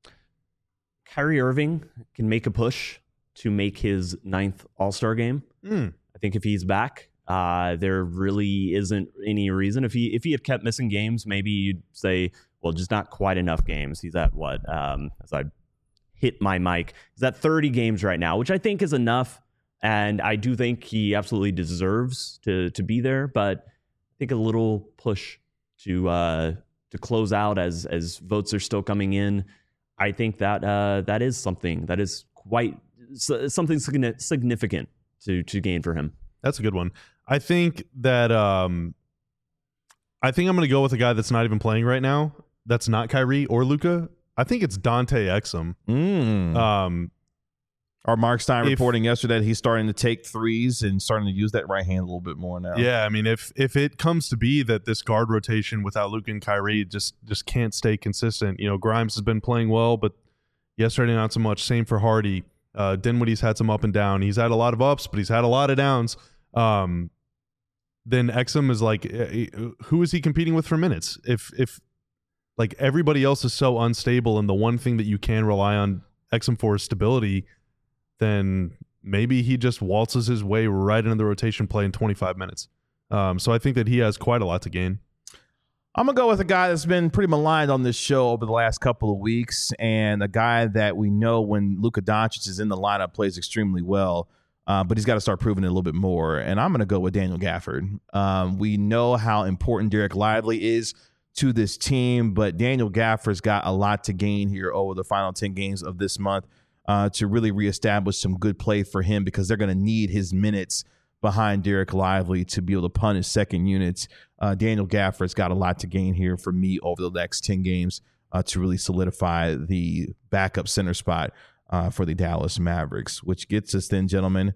Kyrie Irving can make a push to make his 9th All-Star game. I think if he's back, there really isn't any reason. If he had kept missing games, maybe you'd say, well, just not quite enough games. He's at what? As I hit my mic, he's at 30 games right now, which I think is enough And I do think he absolutely deserves to be there, but I think a little push to close out as votes are still coming in. I think that that is something that is quite something significant to gain for him. That's a good one. I think that I think I'm going to go with a guy that's not even playing right now. That's not Kyrie or Luka. I think it's Dante Exum. Our Mark Stein reporting yesterday that he's starting to take threes and starting to use that right hand a little bit more now. Yeah, I mean, if it comes to be that this guard rotation without Luka and Kyrie just can't stay consistent. Grimes has been playing well, but yesterday not so much. Same for Hardy. Dinwiddie's had some up and down. He's had a lot of ups, but he's had a lot of downs. Then Exum is like, who is he competing with for minutes? If like everybody else is so unstable and the one thing that you can rely on Exum for is stability, then maybe he just waltzes his way right into the rotation play in 25 minutes. So I think that he has quite a lot to gain. I'm going to go with a guy that's been pretty maligned on this show over the last couple of weeks, and a guy that we know when Luka Doncic is in the lineup plays extremely well, but he's got to start proving it a little bit more, and I'm going to go with Daniel Gafford. We know how important Derek Lively is to this team, but Daniel Gafford's got a lot to gain here over the final 10 games of this month to really reestablish some good play for him, because they're going to need his minutes behind Derek Lively to be able to punish second units. Daniel Gafford's got a lot to gain here for me over the next 10 games to really solidify the backup center spot for the Dallas Mavericks, which gets us then, gentlemen,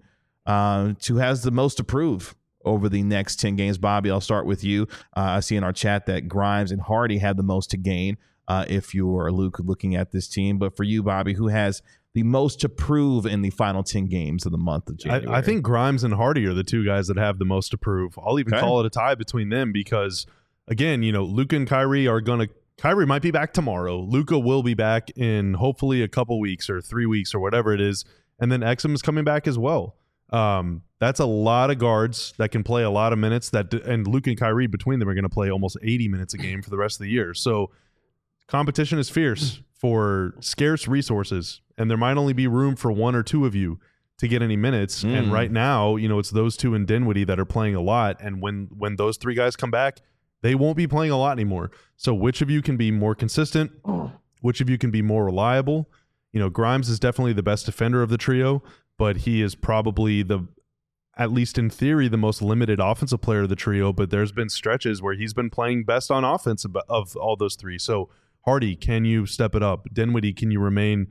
to has the most to prove over the next 10 games. Bobby, I'll start with you. I see in our chat that Grimes and Hardy have the most to gain if you are looking at this team. But for you, Bobby, who has the most to prove in the final 10 games of the month of January? I think Grimes and Hardy are the two guys that have the most to prove. I'll even call it a tie between them because, again, Luka and Kyrie are going to – Kyrie might be back tomorrow. Luka will be back in hopefully a couple weeks or 3 weeks or whatever it is. And then Exum is coming back as well. That's a lot of guards that can play a lot of minutes. And Luka and Kyrie between them are going to play almost 80 minutes a game for the rest of the year. So competition is fierce for scarce resources, and there might only be room for one or two of you to get any minutes. And right now, it's those two and Dinwiddie that are playing a lot. And when those three guys come back, they won't be playing a lot anymore. So which of you can be more consistent? Which of you can be more reliable? Grimes is definitely the best defender of the trio, but he is probably at least in theory, the most limited offensive player of the trio. But there's been stretches where he's been playing best on offense of all those three. So Hardy, can you step it up? Dinwiddie, can you remain,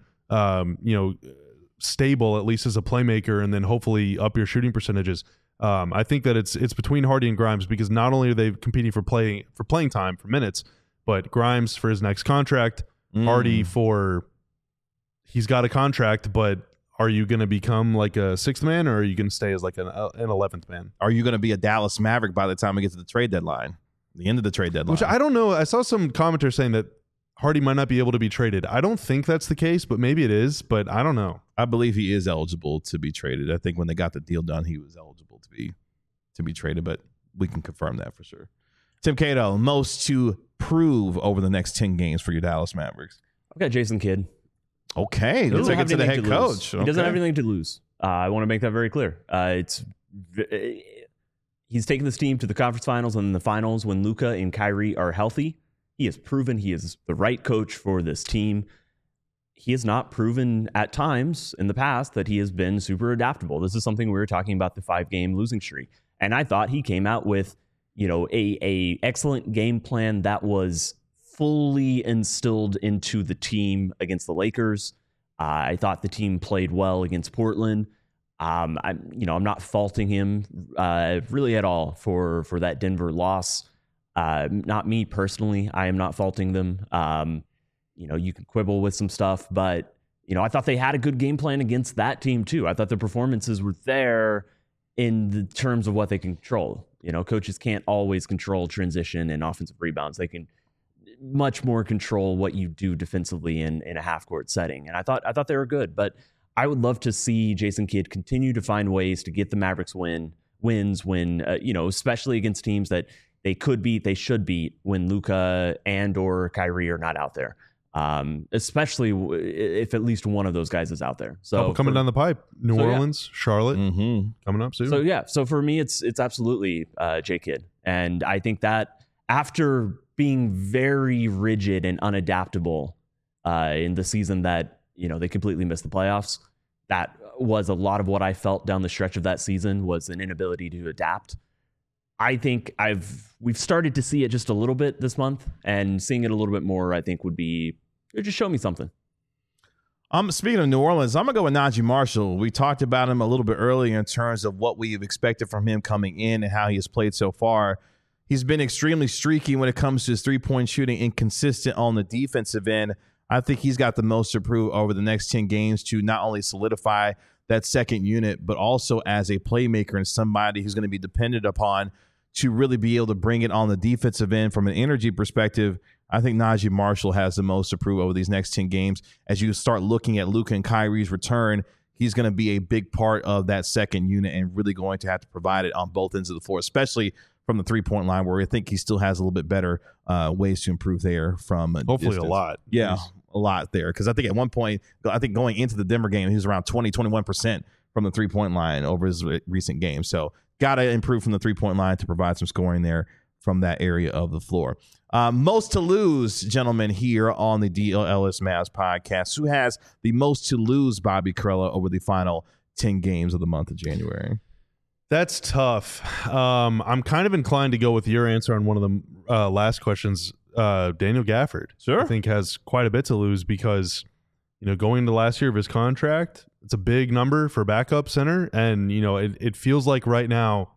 stable at least as a playmaker, and then hopefully up your shooting percentages? I think that it's between Hardy and Grimes, because not only are they competing for playing time, for minutes, but Grimes for his next contract, Hardy he's got a contract, but are you going to become like a sixth man, or are you going to stay as like an 11th man? Are you going to be a Dallas Maverick by the time we get to the trade deadline, the end of the trade deadline? Which I don't know. I saw some commenters saying that Hardy might not be able to be traded. I don't think that's the case, but maybe it is, but I don't know. I believe he is eligible to be traded. I think when they got the deal done, he was eligible to be traded, but we can confirm that for sure. Tim Cato, most to prove over the next 10 games for your Dallas Mavericks. I've got Jason Kidd. Okay, let's take it to the head coach. He doesn't have anything to lose. I want to make that very clear. He's taken this team to the conference finals and the finals when Luka and Kyrie are healthy. He has proven he is the right coach for this team. He has not proven at times in the past that he has been super adaptable. This is something we were talking about, the 5-game losing streak. And I thought he came out with, a excellent game plan that was fully instilled into the team against the Lakers. I thought the team played well against Portland. I'm not faulting him really at all for that Denver loss. Not me personally. I am not faulting them. You can quibble with some stuff, but I thought they had a good game plan against that team too. I thought the performances were there in the terms of what they can control. Coaches can't always control transition and offensive rebounds. They can much more control what you do defensively in a half-court setting. And I thought they were good, but I would love to see Jason Kidd continue to find ways to get the Mavericks wins when especially against teams that they could beat, they should beat when Luka and or Kyrie are not out there. especially if at least one of those guys is out there. So coming down the pipe, New Orleans, Charlotte, Mm-hmm. coming up soon. So for me, it's absolutely J Kidd, and I think that after being very rigid and unadaptable in the season that they completely missed the playoffs, that was a lot of what I felt down the stretch of that season was an inability to adapt. I think we've started to see it just a little bit this month, and seeing it a little bit more, I think it just show me something. Speaking of New Orleans, I'm going to go with Najee Marshall. We talked about him a little bit earlier in terms of what we've expected from him coming in and how he has played so far. He's been extremely streaky when it comes to his three-point shooting, inconsistent on the defensive end. I think he's got the most to prove over the next 10 games to not only solidify that second unit, but also as a playmaker and somebody who's going to be dependent upon to really be able to bring it on the defensive end from an energy perspective. I think Najee Marshall has the most to prove over these next 10 games. As you start looking at Luka and Kyrie's return, he's going to be a big part of that second unit and really going to have to provide it on both ends of the floor, especially from the three-point line, where I think he still has a little bit better ways to improve there from hopefully distance. a lot. Yeah, a lot there. Because I think at one point, going into the Denver game, he was around 21% from the three-point line over his recent game. So got to improve from the three-point line to provide some scoring there from that area of the floor. Most to lose, gentlemen, here on the DLS Mavs podcast. Who has the most to lose, Bobby Karalla, over the final 10 games of the month of January? That's tough. I'm kind of inclined to go with your answer on one of the last questions. Daniel Gafford, Sure. I think, has quite a bit to lose because, going into last year of his contract, it's a big number for backup center. And, it feels like right now,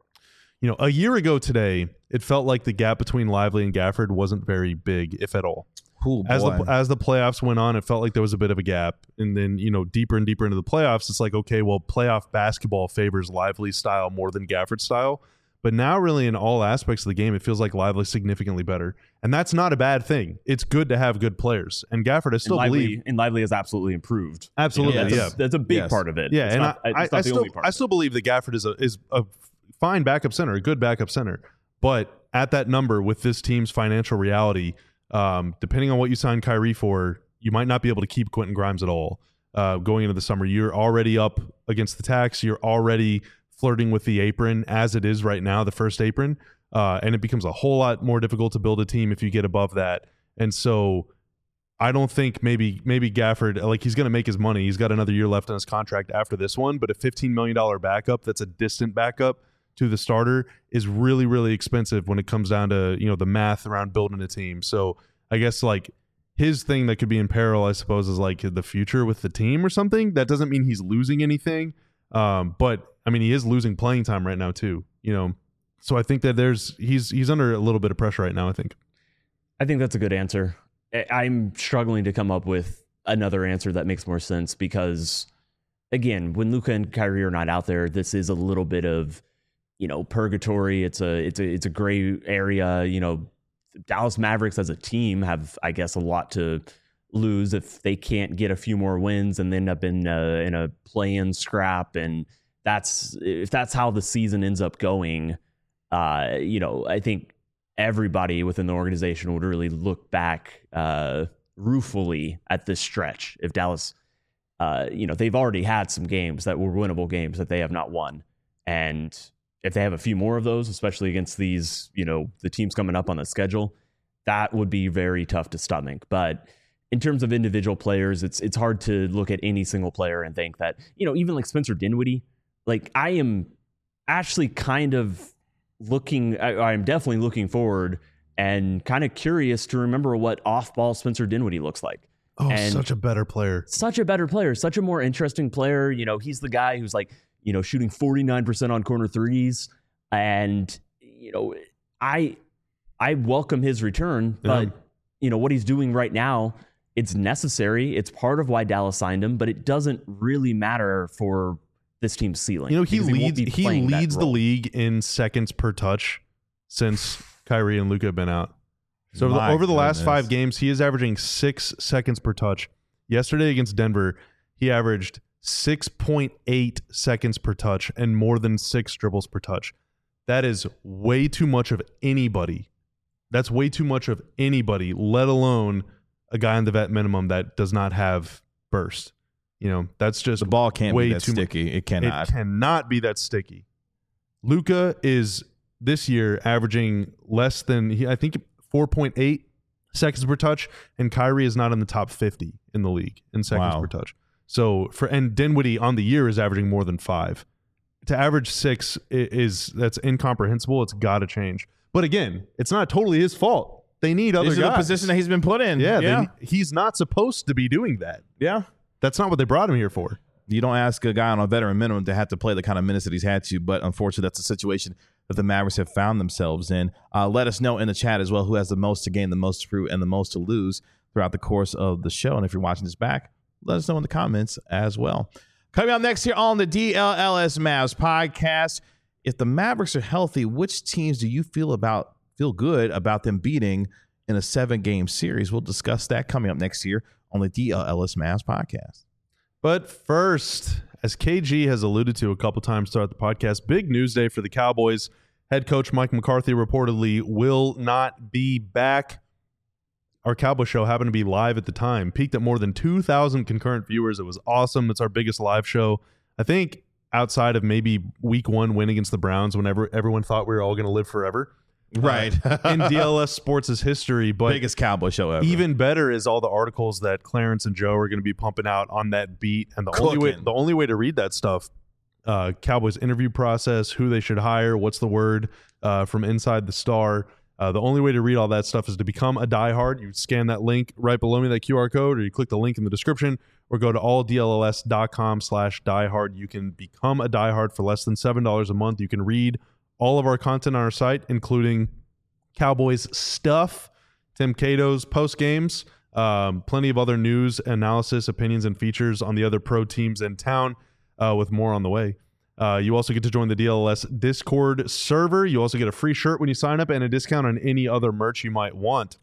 a year ago today, it felt like the gap between Lively and Gafford wasn't very big, if at all. Cool, As the playoffs went on, it felt like there was a bit of a gap. And then, deeper and deeper into the playoffs, it's like, okay, well, playoff basketball favors Lively's style more than Gafford's style. But now really in all aspects of the game, it feels like Lively's significantly better. And that's not a bad thing. It's good to have good players. And Gafford, I still believe. And Lively has absolutely improved. Absolutely, That's a big part of it. Yeah, it's and not, it's not the only part. I still believe that Gafford is a fine backup center, a good backup center. But at that number, with this team's financial reality, depending on what you sign Kyrie for, you might not be able to keep Quentin Grimes at all. Going into the summer, you're already up against the tax. You're already flirting with the apron as it is right now, the first apron. And it becomes a whole lot more difficult to build a team if you get above that. And so I don't think maybe Gafford, like, he's going to make his money. He's got another year left on his contract after this one, but a $15 million backup that's a distant backup to the starter is really, really expensive when it comes down to, the math around building a team. So I guess, like, his thing that could be in peril, I suppose, is like the future with the team or something. That doesn't mean he's losing anything. But I mean, he is losing playing time right now too, So I think that he's under a little bit of pressure right now, I think that's a good answer. I'm struggling to come up with another answer that makes more sense because, again, when Luka and Kyrie are not out there, this is a little bit of, purgatory. It's a gray area. Dallas Mavericks as a team have, I guess, a lot to lose if they can't get a few more wins and end up in a play-in scrap. And if that's how the season ends up going, I think everybody within the organization would really look back ruefully at this stretch if Dallas, they've already had some games that were winnable games that they have not won. And if they have a few more of those, especially against these, the teams coming up on the schedule, that would be very tough to stomach. But in terms of individual players, it's hard to look at any single player and think that, even like Spencer Dinwiddie, like, I am actually kind of I'm definitely looking forward and kind of curious to remember what off-ball Spencer Dinwiddie looks like. Oh, and such a better player. Such a better player. Such a more interesting player. He's the guy who's like, shooting 49% on corner threes. And, I welcome his return, but, what he's doing right now, it's necessary. It's part of why Dallas signed him, but it doesn't really matter for this team's ceiling. He leads the league in seconds per touch since Kyrie and Luka have been out. So over the last 5 games, he is averaging 6 seconds per touch. Yesterday against Denver, he averaged 6.8 seconds per touch and more than 6 dribbles per touch. That is way too much of anybody. That's way too much of anybody, let alone a guy on the vet minimum that does not have burst. That's just The ball can't way be that too sticky. It cannot. It cannot be that sticky. Luka is this year averaging less than, I think, 4.8 seconds per touch, and Kyrie is not in the top 50 in the league in seconds per touch. So and Dinwiddie on the year is averaging more than 5. To average 6 that's incomprehensible. It's got to change. But again, it's not totally his fault. They need other guys. This is the position that he's been put in. Yeah. He's not supposed to be doing that. Yeah. That's not what they brought him here for. You don't ask a guy on a veteran minimum to have to play the kind of minutes that he's had to, but unfortunately, that's a situation that the Mavericks have found themselves in. Let us know in the chat as well who has the most to gain, the most to prove, and the most to lose throughout the course of the show. And if you're watching this back, let us know in the comments as well. Coming up next here on the DLLS Mavs podcast, if the Mavericks are healthy, which teams do you feel good about them beating in a 7-game series? We'll discuss that coming up next year on the DLLS Mavs podcast. But first, as KG has alluded to a couple times throughout the podcast, big news day for the Cowboys. Head coach Mike McCarthy reportedly will not be back. Our Cowboy show happened to be live at the time, peaked at more than 2,000 concurrent viewers. It was awesome. It's our biggest live show. I think outside of maybe week 1 win against the Browns, whenever everyone thought we were all going to live forever. Right. In DLS Sports' history. But biggest Cowboy show ever. Even better is all the articles that Clarence and Joe are going to be pumping out on that beat. And the only way to read that stuff, Cowboys interview process, who they should hire, what's the word from Inside the Star. The only way to read all that stuff is to become a diehard. You scan that link right below me, that QR code, or you click the link in the description, or go to alldlls.com/diehard. You can become a diehard for less than $7 a month. You can read all of our content on our site, including Cowboys stuff, Tim Cato's post games, plenty of other news, analysis, opinions, and features on the other pro teams in town, with more on the way. You also get to join the DLS Discord server. You also get a free shirt when you sign up and a discount on any other merch you might want.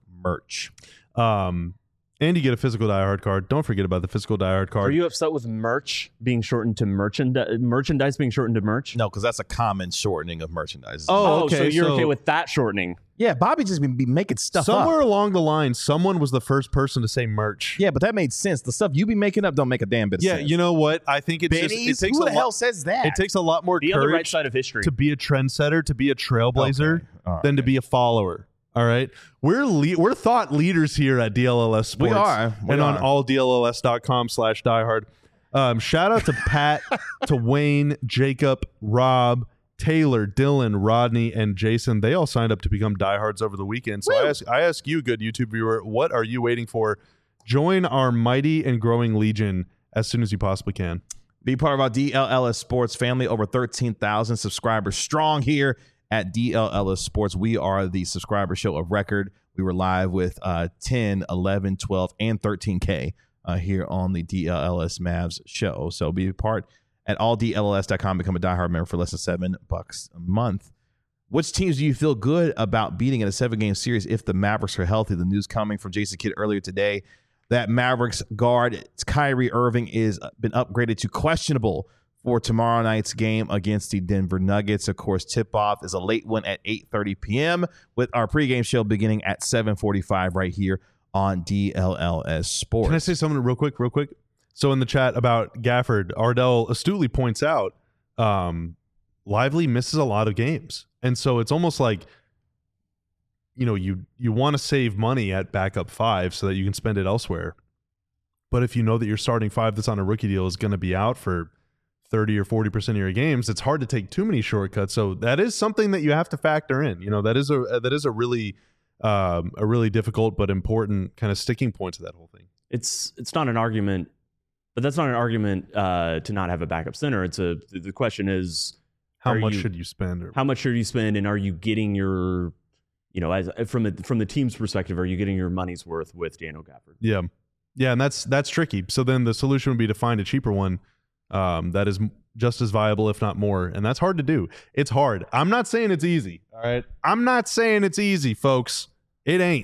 And you get a physical diehard card. Don't forget about the physical diehard card. Are you upset with merch being shortened to merchandise being shortened to merch? No, because that's a common shortening of merchandise. Oh, okay. So you're okay with that shortening? Yeah, Bobby just be making stuff somewhere up. Along the line, someone was the first person to say merch. Yeah, but that made sense. The stuff you be making up don't make a damn bit of sense. Yeah, you know what? I think it takes Who the hell says that? It takes a lot more the courage other right side of history to be a trendsetter, to be a trailblazer, than to be a follower. All right, we're thought leaders here at DLLS Sports. We are. And on alldlls.com/diehard. Shout out to Pat, to Wayne, Jacob, Rob, Taylor, Dylan, Rodney, and Jason. They all signed up to become diehards over the weekend. So I ask you, good YouTube viewer, what are you waiting for? Join our mighty and growing legion as soon as you possibly can. Be part of our DLLS Sports family. Over 13,000 subscribers strong here at DLLS Sports. We are the subscriber show of record. We were live with 10, 11, 12, and 13K here on the DLLS Mavs show. So be a part at alldlls.com. Become a diehard member for less than $7 a month. Which teams do you feel good about beating in a 7-game series if the Mavericks are healthy? The news coming from Jason Kidd earlier today that Mavericks guard Kyrie Irving is been upgraded to questionable for tomorrow night's game against the Denver Nuggets. Of course, tip-off is a late one at 8:30 p.m. with our pregame show beginning at 7:45 right here on DLLS Sports. Can I say something real quick? So in the chat about Gafford, Ardell astutely points out Lively misses a lot of games. And so it's almost like, you want to save money at backup 5 so that you can spend it elsewhere. But if you know that your starting 5 that's on a rookie deal is going to be out for 30 or 40% of your games, it's hard to take too many shortcuts. So that is something that you have to factor in. That is a really difficult but important kind of sticking point to that whole thing. It's not an argument, but that's not an argument to not have a backup center. The question is how much should you spend? How much should you spend, and are you getting your, as from the team's perspective, are you getting your money's worth with Daniel Gafford? Yeah, and that's tricky. So then the solution would be to find a cheaper one. That is just as viable, if not more. And that's hard to do. It's hard. I'm not saying it's easy. All right. I'm not saying it's easy, folks. It ain't.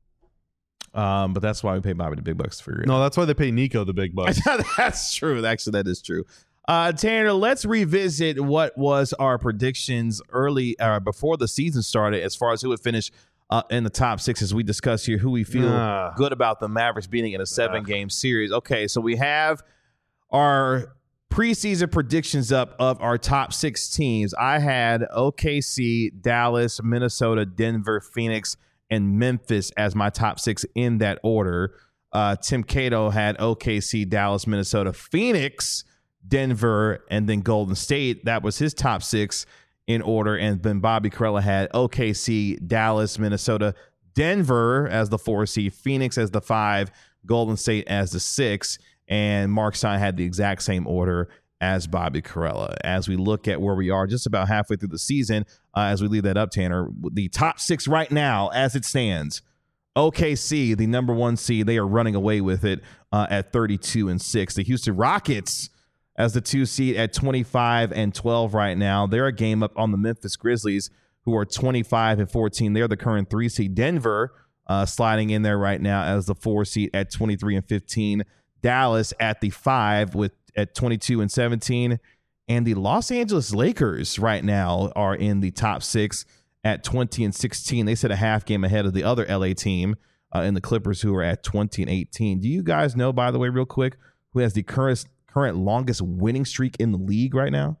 But that's why we pay Bobby the big bucks for it. No, that's why they pay Nico the big bucks. That's true. Actually, that is true. Tanner, let's revisit what was our predictions early before the season started as far as who would finish in the top 6 as we discuss here who we feel good about the Mavericks beating in a 7-game series. Okay, so we have our preseason predictions up of our top 6 teams. I had OKC, Dallas, Minnesota, Denver, Phoenix, and Memphis as my top 6 in that order. Tim Cato had OKC, Dallas, Minnesota, Phoenix, Denver, and then Golden State. That was his top 6 in order. And then Bobby Karalla had OKC, Dallas, Minnesota, Denver as the 4 seed, Phoenix as the 5, Golden State as the 6. And Mark Stein had the exact same order as Bobby Karalla. As we look at where we are just about halfway through the season, as we leave that up, Tanner, the top 6 right now as it stands, OKC, the number 1 seed, they are running away with it at 32-6. The Houston Rockets as the 2 seed at 25-12 right now. They're a game up on the Memphis Grizzlies, who are 25-14. They're the current 3 seed. Denver sliding in there right now as the 4 seed at 23-15. Dallas at the 5 at 22-17. And the Los Angeles Lakers right now are in the top 6 at 20-16. They sit a half game ahead of the other LA team in the Clippers, who are at 20-18. Do you guys know, by the way, real quick, who has the current longest winning streak in the league right now?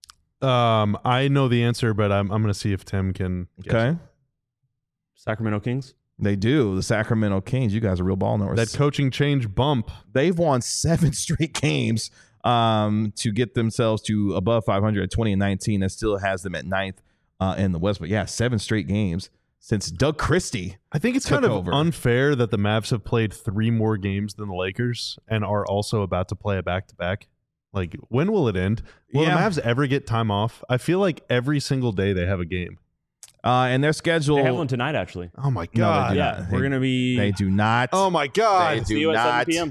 I know the answer, but I'm going to see if Tim can guess. Okay. Sacramento Kings. They do. The Sacramento Kings. You guys are real ball knowers. That coaching change bump. They've won 7 straight games to get themselves to above 500 at 20-19. That still has them at 9th in the West. But yeah, 7 straight games since Doug Christie. I think it's kind of unfair that the Mavs have played 3 more games than the Lakers and are also about to play a back-to-back. Like, when will it end? Will the Mavs ever get time off? I feel like every single day they have a game. And their schedule. They have one tonight, actually. Oh, my God. Yeah, we're going to be. They do not. Oh, my God. They See do you not. at 7 p.m.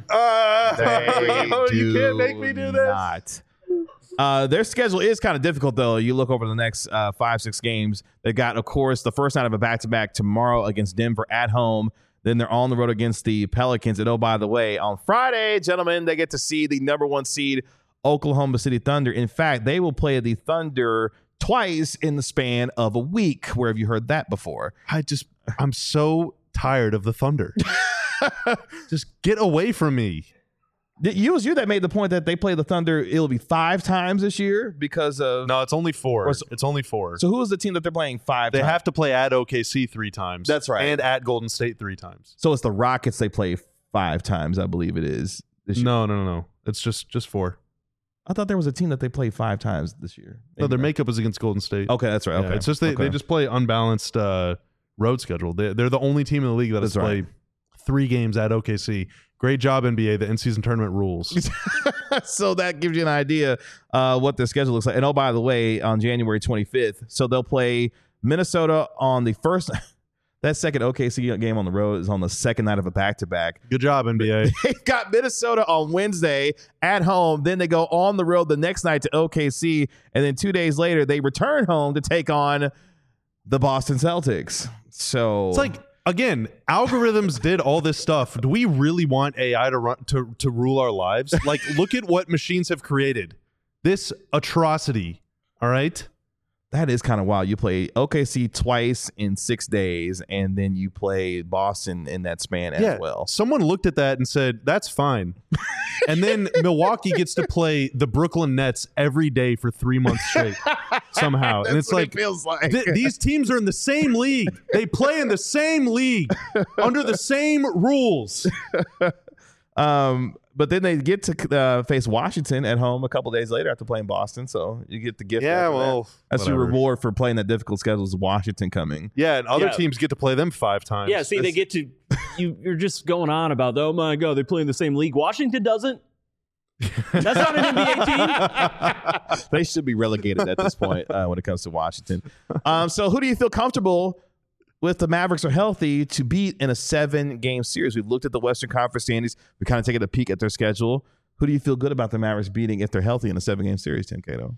You can't make me do this. Not. Their schedule is kind of difficult, though. You look over the next 5-6 games. They got, of course, the first night of a back-to-back tomorrow against Denver at home. Then they're on the road against the Pelicans. And, oh, by the way, on Friday, gentlemen, they get to see the number 1 seed Oklahoma City Thunder. In fact, they will play the Thunder twice in the span of a week. Where have you heard that before? I'm so tired of the Thunder. Just get away from me. It was you that made the point that they play the Thunder. It'll be 5 times this year because of. No, it's only 4. It's only 4. So who is the team that they're playing 5 They times? have to play at OKC 3 times. That's right. And at Golden State 3 times. So it's the Rockets they play 5 times, I believe it is. This year. No. It's just 4. I thought there was a team that they played 5 times this year. No, their makeup is against Golden State. Okay, that's right. Yeah, Okay, it's just they just play unbalanced road schedule. They're the only team in the league that has to play 3 games at OKC. Great job, NBA. The in-season tournament rules. So that gives you an idea what their schedule looks like. And oh, by the way, on January 25th, so they'll play Minnesota on the first. That second OKC game on the road is on the second night of a back-to-back. Good job, NBA. They've got Minnesota on Wednesday at home. Then they go on the road the next night to OKC. And then 2 days later, they return home to take on the Boston Celtics. So it's like, again, algorithms did all this stuff. Do we really want AI to rule our lives? Like, look at what machines have created. This atrocity, all right? that is kind of wild. You play OKC twice in 6 days, and then you play Boston in that span as well. Someone looked at that and said, that's fine. And then Milwaukee gets to play the Brooklyn Nets every day for 3 months straight somehow. And it's like, it feels like. These teams are in the same league. They play in the same league under the same rules. But then they get to face Washington at home a couple days later after playing Boston. So you get the gift. Yeah, well, that's your reward for playing that difficult schedule is Washington coming. Yeah, and other teams get to play them 5 times. Yeah, see, they get to you're just going on about, oh my God, they play in the same league. Washington doesn't. That's not an NBA team. They should be relegated at this point when it comes to Washington. So who do you feel comfortable with the Mavericks are healthy to beat in a 7-game series? We've looked at the Western Conference standings. We kind of taken a peek at their schedule. Who do you feel good about the Mavericks beating if they're healthy in a 7-game series, Tim Cato?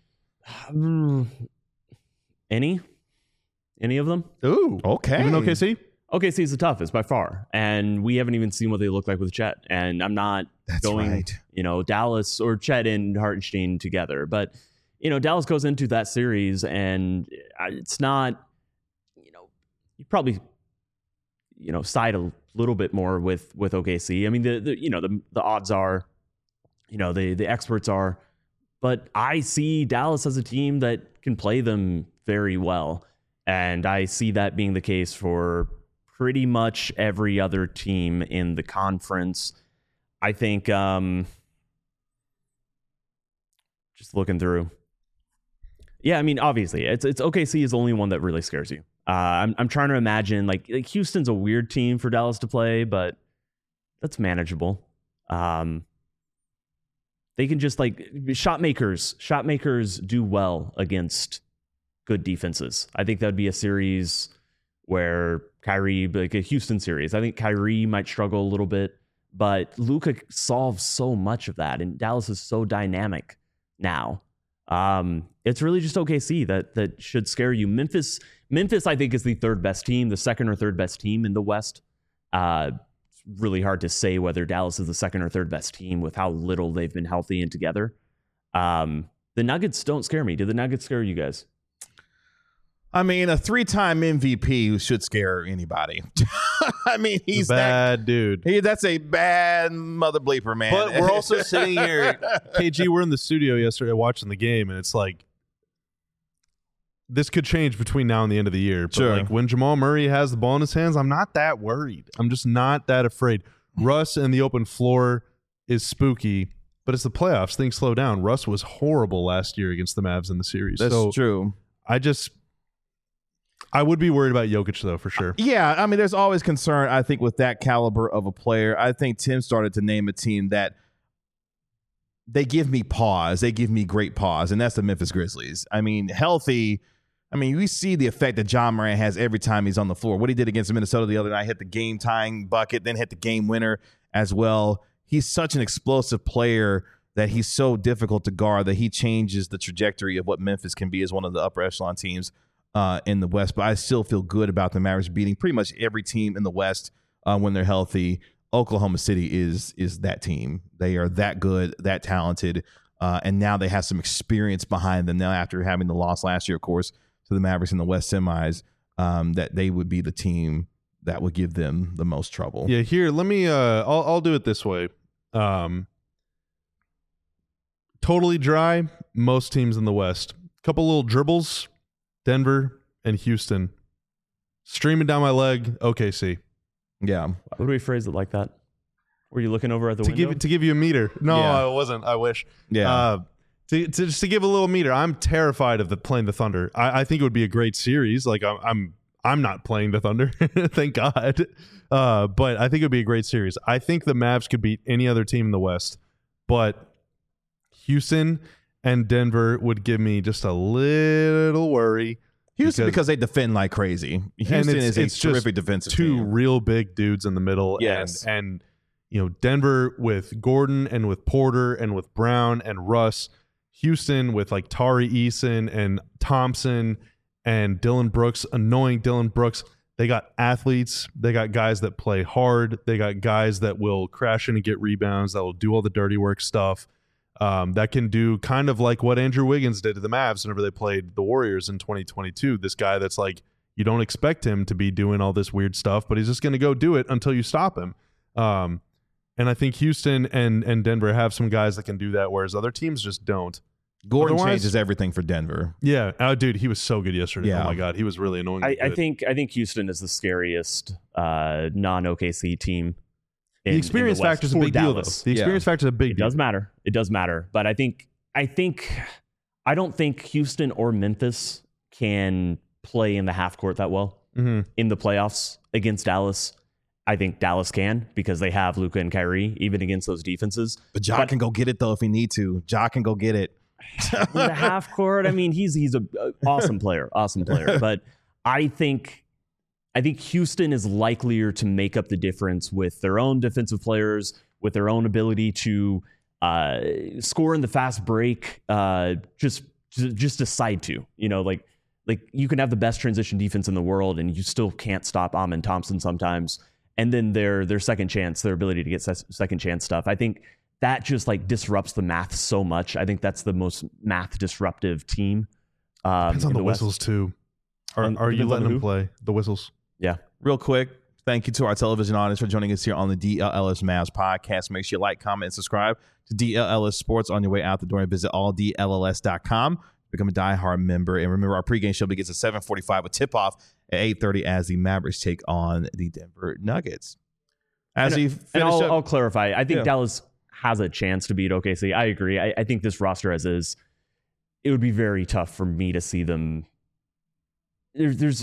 Any of them? Ooh, okay. Even OKC? OKC is the toughest by far, and we haven't even seen what they look like with Chet. And I'm not going, Dallas or Chet and Hartenstein together. But, Dallas goes into that series, and it's not, you probably side a little bit more with OKC. I mean, the odds are, the experts are, but I see Dallas as a team that can play them very well. And I see that being the case for pretty much every other team in the conference. I think, just looking through. Yeah, I mean, obviously, it's OKC is the only one that really scares you. I'm trying to imagine, like Houston's a weird team for Dallas to play, but that's manageable. They can just shot makers do well against good defenses. I think that would be a series where Kyrie, like a Houston series, I think Kyrie might struggle a little bit, but Luka solves so much of that, and Dallas is so dynamic now. It's really just OKC that should scare you. Memphis, I think, is the third best team, the second or third best team in the West. It's really hard to say whether Dallas is the second or third best team with how little they've been healthy and together. The Nuggets don't scare me. Do the Nuggets scare you guys? I mean, a 3-time MVP who should scare anybody. I mean, he's a bad dude. That's a bad mother bleeper, man. But we're also sitting here, KG, we're in the studio yesterday watching the game, and it's like, this could change between now and the end of the year. But sure. When Jamal Murray has the ball in his hands, I'm not that worried. I'm just not that afraid. Russ and the open floor is spooky, but it's the playoffs. Things slow down. Russ was horrible last year against the Mavs in the series. That's true. I would be worried about Jokic, though, for sure. Yeah, I mean, there's always concern, I think, with that caliber of a player. I think Tim started to name a team that they give me pause. They give me great pause, and that's the Memphis Grizzlies. I mean, healthy. I mean, we see the effect that Ja Morant has every time he's on the floor. What he did against Minnesota the other night, hit the game-tying bucket, then hit the game winner as well. He's such an explosive player that he's so difficult to guard that he changes the trajectory of what Memphis can be as one of the upper echelon teams in the West. But I still feel good about the Mavericks beating pretty much every team in the West when they're healthy. Oklahoma City is that team. They are that good, that talented, and now they have some experience behind them now after having the loss last year, of course, to the Mavericks in the West semis, that they would be the team that would give them the most trouble. Yeah, here, let me I'll do it this way. Totally dry, most teams in the West. Couple little dribbles, Denver and Houston. Streaming down my leg, OKC. Yeah. Why would we phrase it like that? Were you looking over at the window? To give you a meter. No, Yeah. I wasn't. I wish. Yeah. Just to give a little meter, I'm terrified of playing the Thunder. I think it would be a great series. Like I'm not playing the Thunder, thank God. But I think it would be a great series. I think the Mavs could beat any other team in the West, but Houston and Denver would give me just a little worry. Houston because they defend like crazy. Houston is a terrific defensive two team. real big dudes in the middle. Yes. And Denver with Gordon and with Porter and with Brown and Russ. Houston with like Tari Eason and Thompson and Dylan Brooks, annoying Dylan Brooks. They got athletes. They got guys that play hard. They got guys that will crash in and get rebounds, that will do all the dirty work stuff. That can do kind of like what Andrew Wiggins did to the Mavs whenever they played the Warriors in 2022. This guy that's like, you don't expect him to be doing all this weird stuff, but he's just going to go do it until you stop him. And I think Houston and Denver have some guys that can do that, whereas other teams just don't. Gordon changes everything for Denver. Yeah. Oh, dude, he was so good yesterday. Yeah. Oh, my God. He was really annoying. I think Houston is the scariest non-OKC team. The experience factor is a big deal, though. The experience factor is a big deal. It does matter. It does matter. But I don't think Houston or Memphis can play in the half court that well in the playoffs against Dallas. I think Dallas can because they have Luka and Kyrie, even against those defenses. But Ja can go get it, though, if he need to. Ja can go get it. The half court, I mean, he's an awesome player. But I think Houston is likelier to make up the difference with their own defensive players, with their own ability to score in the fast break, just decide to. Like you can have the best transition defense in the world, and you still can't stop Amen Thompson sometimes. And then their second chance, their ability to get second chance stuff. I think that just like disrupts the math so much. I think that's the most math disruptive team. Depends on the whistles too. Are you letting them play the whistles? Yeah. Real quick, Thank you to our television audience for joining us here on the DLLS Mavs podcast. Make sure you like, comment, and subscribe to DLLS Sports on your way out the door, and visit alldlls.com. Become a diehard member. And remember, our pregame show begins at 7:45 with tip-off at 8:30 as the Mavericks take on the Denver Nuggets. I'll clarify. I think Dallas has a chance to beat OKC. I agree. I think this roster as is, it would be very tough for me to see them. There's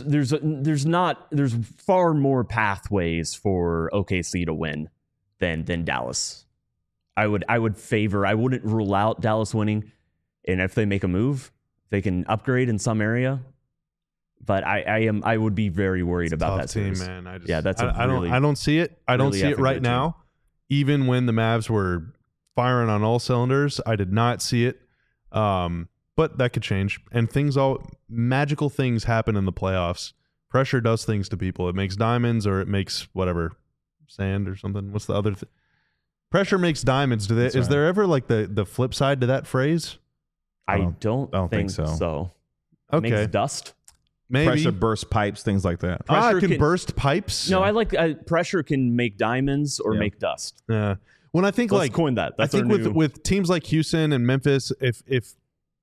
far more pathways for OKC to win than Dallas. I wouldn't rule out Dallas winning, and if they make a move, they can upgrade in some area. But I would be very worried about that team, series. man. I don't see it. I don't see it right now. Even when the Mavs were firing on all cylinders, I did not see it. But that could change. And magical things happen in the playoffs. Pressure does things to people. It makes diamonds, or it makes whatever, sand or something. What's the other thing? Pressure makes diamonds. Is there ever like the flip side to that phrase? I don't think so. Okay. Makes dust. Maybe. Pressure burst pipes, things like that. Pressure can burst pipes? No, I like pressure can make diamonds or make dust. Yeah. When I think Let's coin that. I think with teams like Houston and Memphis, if it's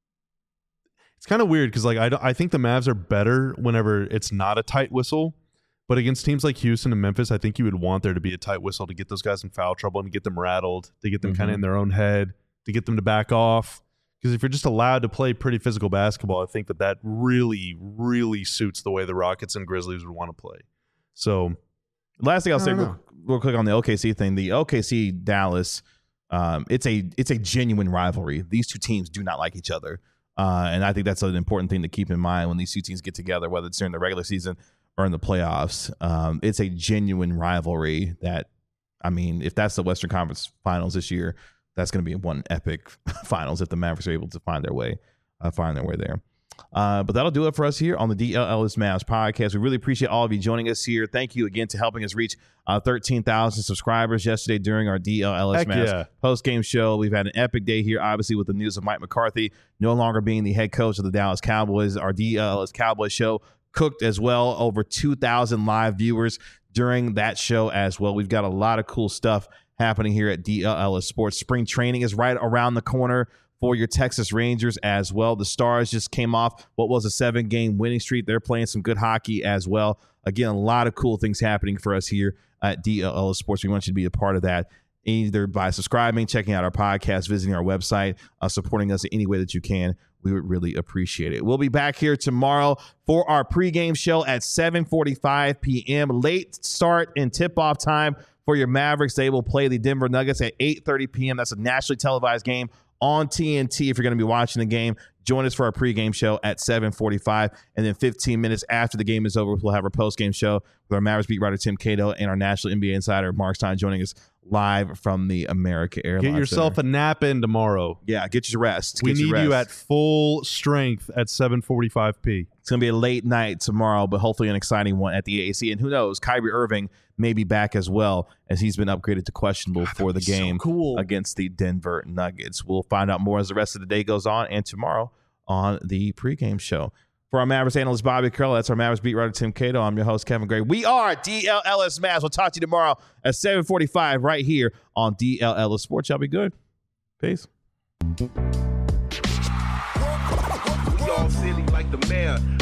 kind of weird because I think the Mavs are better whenever it's not a tight whistle. But against teams like Houston and Memphis, I think you would want there to be a tight whistle to get those guys in foul trouble and to get them rattled, to get them kind of in their own head, to get them to back off. Because if you're just allowed to play pretty physical basketball, I think that really, really suits the way the Rockets and Grizzlies would want to play. So, last thing I'll say real quick on the OKC thing, the OKC Dallas, it's a genuine rivalry. These two teams do not like each other. And I think that's an important thing to keep in mind when these two teams get together, whether it's during the regular season or in the playoffs. It's a genuine rivalry that, I mean, if that's the Western Conference Finals this year, that's going to be one epic finals if the Mavericks are able to find their way there. But that'll do it for us here on the DLLS Mavs podcast. We really appreciate all of you joining us here. Thank you again to helping us reach 13,000 subscribers yesterday during our DLLS Mavs post-game show. We've had an epic day here, obviously, with the news of Mike McCarthy no longer being the head coach of the Dallas Cowboys. Our DLLS Cowboys show cooked as well. Over 2,000 live viewers during that show as well. We've got a lot of cool stuff happening here at DLLS Sports. Spring training is right around the corner for your Texas Rangers as well. The Stars just came off what was a 7-game winning streak. They're playing some good hockey as well. Again, a lot of cool things happening for us here at DLLS Sports. We want you to be a part of that, either by subscribing, checking out our podcast, visiting our website, supporting us in any way that you can. We would really appreciate it. We'll be back here tomorrow for our pregame show at 7:45 p.m. Late start and tip-off time for your Mavericks. They will play the Denver Nuggets at 8:30 p.m. That's a nationally televised game on TNT. If you're going to be watching the game, join us for our pregame show at 7:45. And then 15 minutes after the game is over, we'll have our postgame show with our Mavericks beat writer Tim Cato and our national NBA insider Mark Stein joining us live from the America Airlines Get yourself Center. a nap in tomorrow. Yeah, get your rest. We need you at full strength at 7:45 It's going to be a late night tomorrow, but hopefully an exciting one at the AAC. And who knows, Kyrie Irving may be back as well, as he's been upgraded to questionable for the game against the Denver Nuggets. We'll find out more as the rest of the day goes on and tomorrow on the pregame show. For our Mavericks analyst, Bobby Curl, that's our Mavericks beat writer, Tim Cato. I'm your host, Kevin Gray. We are DLLS Mavs. We'll talk to you tomorrow at 7:45 right here on DLLS Sports. Y'all be good. Peace. We all silly like the mayor.